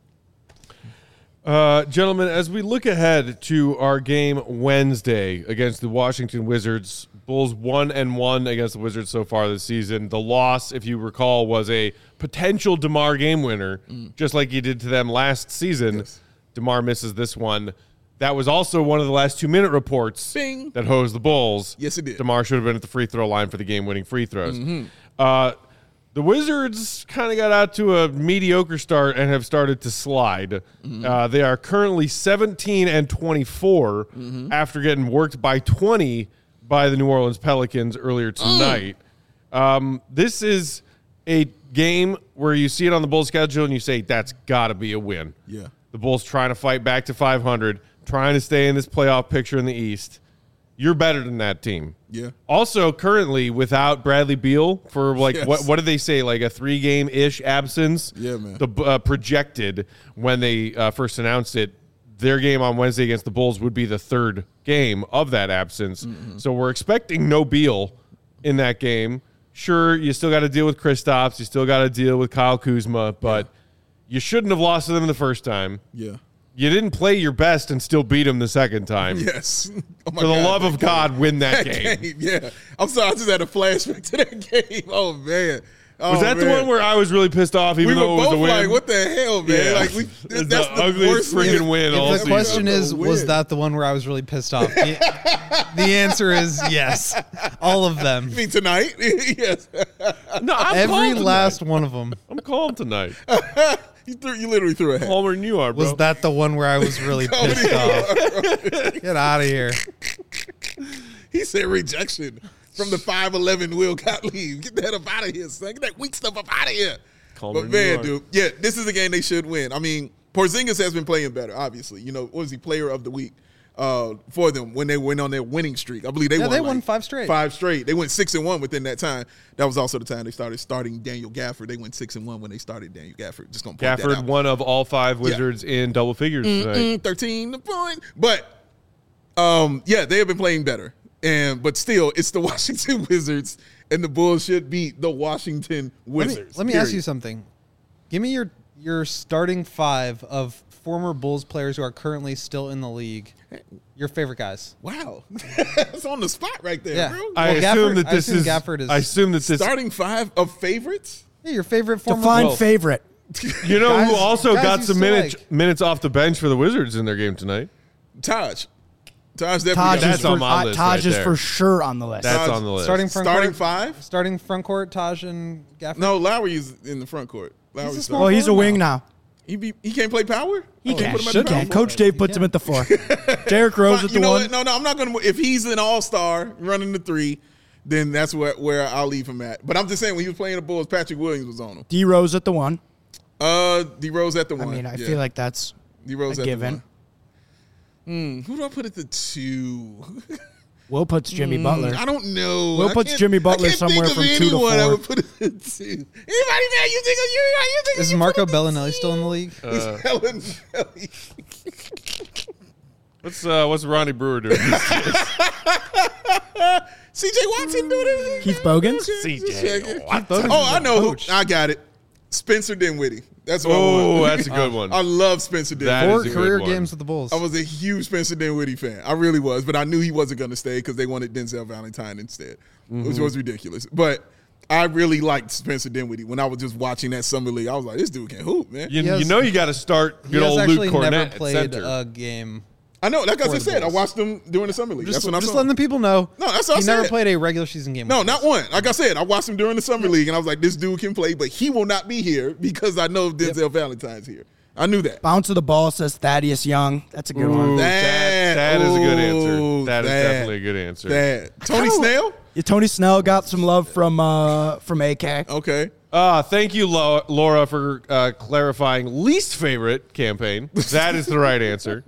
Gentlemen, as we look ahead to our game Wednesday against the Washington Wizards, Bulls 1-1 against the Wizards so far this season. The loss, if you recall, was a potential DeMar game winner, just like he did to them last season. Yes. DeMar misses this one. That was also one of the last 2-minute reports Bing. that hosed the Bulls. Yes, it did. DeMar should have been at the free throw line for the game-winning free throws. The Wizards kind of got out to a mediocre start and have started to slide. They are currently 17-24 after getting worked by 20 by the New Orleans Pelicans earlier tonight. This is a game where you see it on the Bulls schedule and you say, that's got to be a win. Yeah. The Bulls trying to fight back to 500, trying to stay in this playoff picture in the East. you're better than that team. Yeah. Also, currently without Bradley Beal for like Yes. what did they say, like a 3-game-ish absence? Yeah, man. The projected when they first announced it, their game on Wednesday against the Bulls would be the third game of that absence. So we're expecting no Beal in that game. Sure, you still got to deal with Kristaps, you still got to deal with Kyle Kuzma, but you shouldn't have lost to them the first time. Yeah. You didn't play your best and still beat them the second time. Yes. Oh my For the God. love of God, win that game. Yeah. I'm sorry. I just had a flashback to that game. Oh, man. Oh, Was that the man. one where I was really pissed off, even we were though it was both a win? like, what the hell, man? Yeah. Like, It's that's the the ugliest worst freaking win all The season. question That's is, a was win. that the one where I was really pissed off? The answer is yes. All of them. I mean, tonight? Yes. No, I'm Every calm last one of them. tonight. I'm calm tonight. You literally threw a hat. Calmer than you are, bro. Was that the one where I was really pissed off? Get out of here. He said rejection from the 5'11" Will Gottlieb. Get that up out of here, son. Get that weak stuff up out of here. Calmer But than you man, are. dude, yeah, this is a game they should win. I mean, Porzingis has been playing better, obviously. You know, what was he player of the week for them when they went on their winning streak? I believe they won. They won 5 straight. 5 straight. They went 6-1 within that time. That was also the time they started starting Daniel Gafford. They went 6-1 when they started Daniel Gafford. Just gonna point that Gafford, out. one of all 5 Wizards in double figures tonight. 13 points. But yeah, they have been playing better. But still, it's the Washington Wizards, and the Bulls should beat the Washington Wizards. Let me ask period. you something. Give me your starting 5 of former Bulls players who are currently still in the league. Your favorite guys. Wow, that's on the spot right there, Yeah. bro. I Well, assume Gafford- that I this assume is. Gafford is- I assume that this. Starting 5 of favorites. Yeah, your favorite former Define Bulls. favorite. You know who Guys- also guys got you some still minutes off the bench for the Wizards in their game tonight? Taj definitely. Taj got That's is, on for, my list Taj right is there. for sure on the list. That's Taj- on the list. Starting front starting court. 5. Starting front court, Taj and Gafford. No, Lowry is in the front court. Lowry's a starting. small Well, he's a wing now. He can't play power. He Oh, can. put him at He the power can. forward? Coach Dave puts him at the 4. Derrick Rose Fine, at you the know 1. what? No, I'm not going to. If he's an all-star running the 3, then that's where I'll leave him at. But I'm just saying, when he was playing the Bulls, Patrick Williams was on him. D Rose at the 1. D Rose at the 1. I mean, I feel like that's D Rose a at given. the 1. Who do I put at the 2? Will puts Jimmy Butler. I don't know. Will I puts can't- Jimmy Butler I can't somewhere think of from 2 to anyone I 4. would put at the 2. Anybody, man? You think of you? Is Marco Bellinelli still in the league? Bellinelli. What's Ronnie Brewer doing? CJ Watson doing it. Keith Bogans? CJ Watson. Oh, I know. Coach. I got it. Spencer Dinwiddie. That's what I Oh, want. that's a good one. I love Spencer That Dinwiddie. is Four a good career one. games with the Bulls. I was a huge Spencer Dinwiddie fan. I really was, but I knew he wasn't going to stay because they wanted Denzel Valentine instead, which was ridiculous. But I really liked Spencer Dinwiddie when I was just watching that summer league. I was like, this dude can hoop, man. You, He has- you know you got to start he good has old actually Luke Cornett never at played center. a game. I know. Like I For just the said, I Bulls. watched them during the summer league. Just, That's when I just saw letting the people know. No, that's what I he never said. played a regular season game. No, with not the one. Like I said, I watched him during the summer league, and I was like, this dude can play, but he will not be here because I know Denzel Valentine's here. I knew that. Bounce of the ball says Thaddeus Young. That's a good Ooh, one. that is a good answer. Ooh, That is that. definitely a good answer. Tony Snell? Yeah, Tony Snell got some love from AK. Okay. Thank you, Laura, for clarifying least favorite campaign. That is the right answer.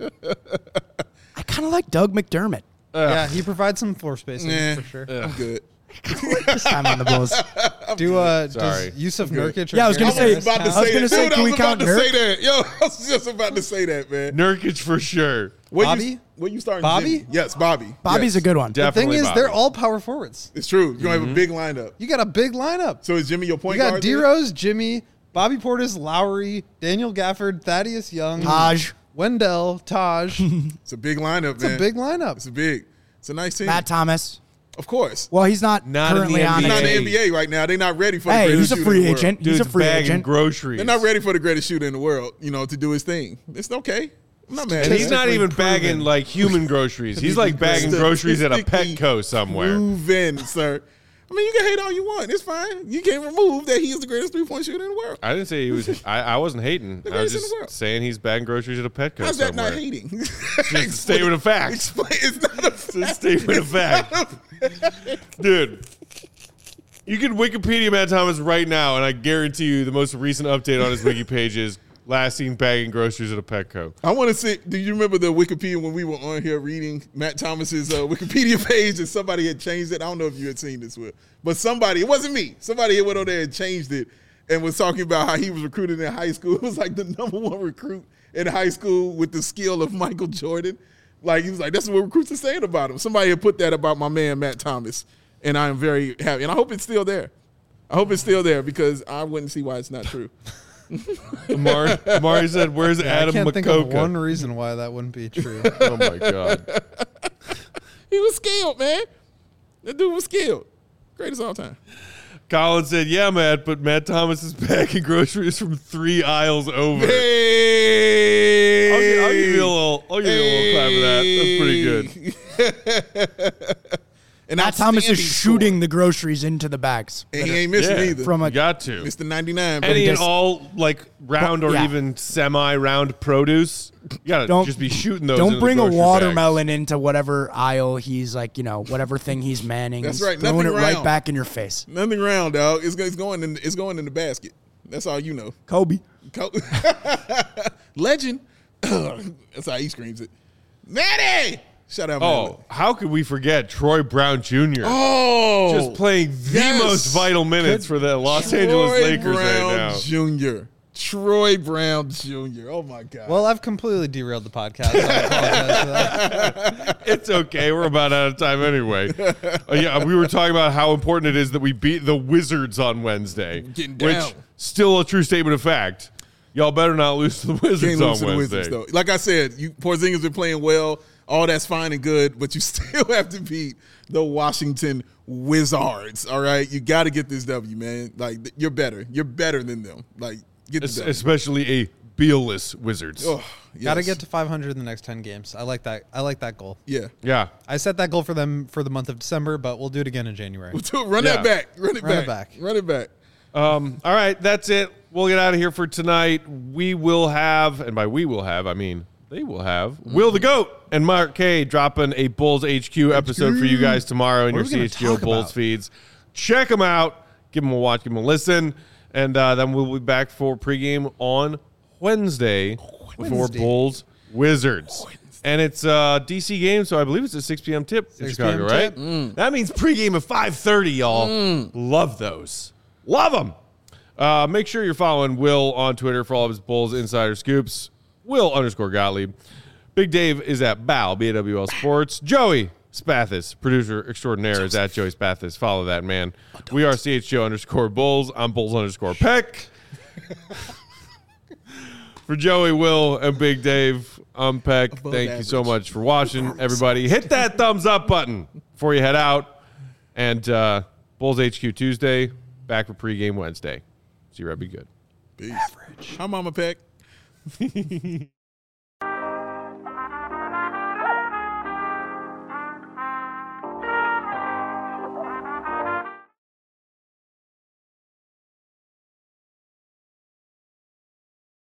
I kind of like Doug McDermott Yeah, he provides some floor spacing Nah, for sure. I'm good. this time on the Bulls. Sorry. Does Yusuf Nurkic? Or Yeah, I was gonna I Gary was say- about to Harris I was say gonna that. say, Dude, can I we was about count to Nurk? say that. Yo, I was just about to say that, man. Nurkic for sure. Where Bobby? Where you starting? Bobby? Jimmy? Yes, Bobby. Bobby's Yes. a good one. The thing Definitely is, Bobby. they're all power forwards. It's true. You're going to have a big lineup. You got a big lineup. So is Jimmy your point You got guard? D then? Rose, Jimmy, Bobby Portis, Lowry, Daniel Gafford, Thaddeus Young, Taj. Wendell, Taj. It's a big lineup, It's man. a big lineup. It's a big. It's a nice team. Matt Thomas. Of course. Well, he's not, Not in the currently on NBA. He's not it. in the NBA right now. They're not ready for the Hey, greatest he's a shooter free in the world. agent. He's a Dude's free bagging agent. groceries. They're not ready for the greatest shooter in the world, to do his thing. It's okay. I'm not mad. And at he's that. not even proven. bagging like human groceries. He's like bagging groceries at a Statistically Petco somewhere. Proven, sir. I mean, you can hate all you want. It's fine. You can't remove that he is the greatest three-point shooter in the world. I didn't say he was. I wasn't hating. I was greatest in the just world. saying he's bagging groceries at a Petco How's that somewhere. not hating? Just a statement of facts. Explain. It's not a It's a statement of fact. Dude, you can Wikipedia Matt Thomas right now, and I guarantee you the most recent update on his wiki page is last seen bagging groceries at a Petco. I want to see. Do you remember the Wikipedia when we were on here reading Matt Thomas's Wikipedia page and somebody had changed it? I don't know if you had seen this, Will, but somebody, it wasn't me. Somebody had went on there and changed it and was talking about how he was recruited in high school. It was like the #1 recruit in high school with the skill of Michael Jordan. Like, he was like, that's what recruits are saying about him. Somebody had put that about my man, Matt Thomas, and I am very happy. And I hope it's still there. I hope it's still there because I wouldn't see why it's not true. Amari said, where's Adam I can't Makoka? think of one reason why that wouldn't be true. Oh, my God. He was skilled, man. That dude was skilled. Greatest of all time. Colin said, yeah, Matt, but Matt Thomas is bagging groceries from 3 aisles over. Hey! I'll give you a little clap for that. That's pretty good. And Matt Thomas is shooting the groceries into the bags. And he ain't missing either. From You a got to. Mr. 99. Any baby. and all, like, round or Yeah. even semi-round produce, you got to just be shooting those Don't into bring the a grocery watermelon into whatever aisle he's like, whatever thing he's manning. That's He's right, Throwing it nothing right round. back in your face. Nothing round, dog. It's going in the basket. That's all you know. Kobe. Legend. That's how he screams it. Matty! Shout out, bags. Matty. Oh, how could we forget Troy Brown Jr.? Oh, Just playing the yes. most vital minutes for the Los Angeles Lakers Brown right now. Jr. Troy Brown Jr. Oh my God. Well, I've completely derailed the podcast. So I apologize for that. It's okay. We're about out of time anyway. Yeah, we were talking about how important it is that we beat the Wizards on Wednesday. Getting which, down. still a true statement of fact. Y'all better not lose to the Wizards Can't on lose to the Wednesday. Wizards, though. Like I said, Porzingis been playing well. All that's fine and good, but you still have to beat the Washington Wizards. All right, you got to get this W, man. Like, you're better. You're better than them. Like, get the W. Especially a Beal-less Wizards. Oh, yes. Got to get to 500 in the next 10 games. I like that. I like that goal. Yeah. Yeah. I set that goal for them for the month of December, but we'll do it again in January. Run Yeah. that back. Run it Run it back. back. Run it back. All right, that's it. We'll get out of here for tonight. We will have, and by we will have, I mean they will have, Will the GOAT and Mark K dropping a Bulls HQ episode for you guys tomorrow in What your are we gonna CHGO talk Bulls about? feeds. Check them out. Give them a watch. Give them a listen. And then we'll be back for pregame on Wednesday for Bulls Wizards. And it's a DC game, so I believe it's a 6 p.m. tip in 6 Chicago, p.m. right? tip. That means pregame at 5:30, y'all. Love those. Love them. Make sure you're following Will on Twitter for all of his Bulls insider scoops. Will_Gottlieb. Big Dave is at BAL, BAWL Sports. Joey Spathis, producer extraordinaire, is at Joey Spathis. Follow that, man. We are CHGO_Bulls. I'm Bulls_Peck. For Joey, Will, and Big Dave, I'm Peck. Thank you so much for watching, everybody. Hit that thumbs up button before you head out. And Bulls HQ Tuesday, back for pregame Wednesday. See you, Red. Be good. Peace. Average. Hi, Mama Peck.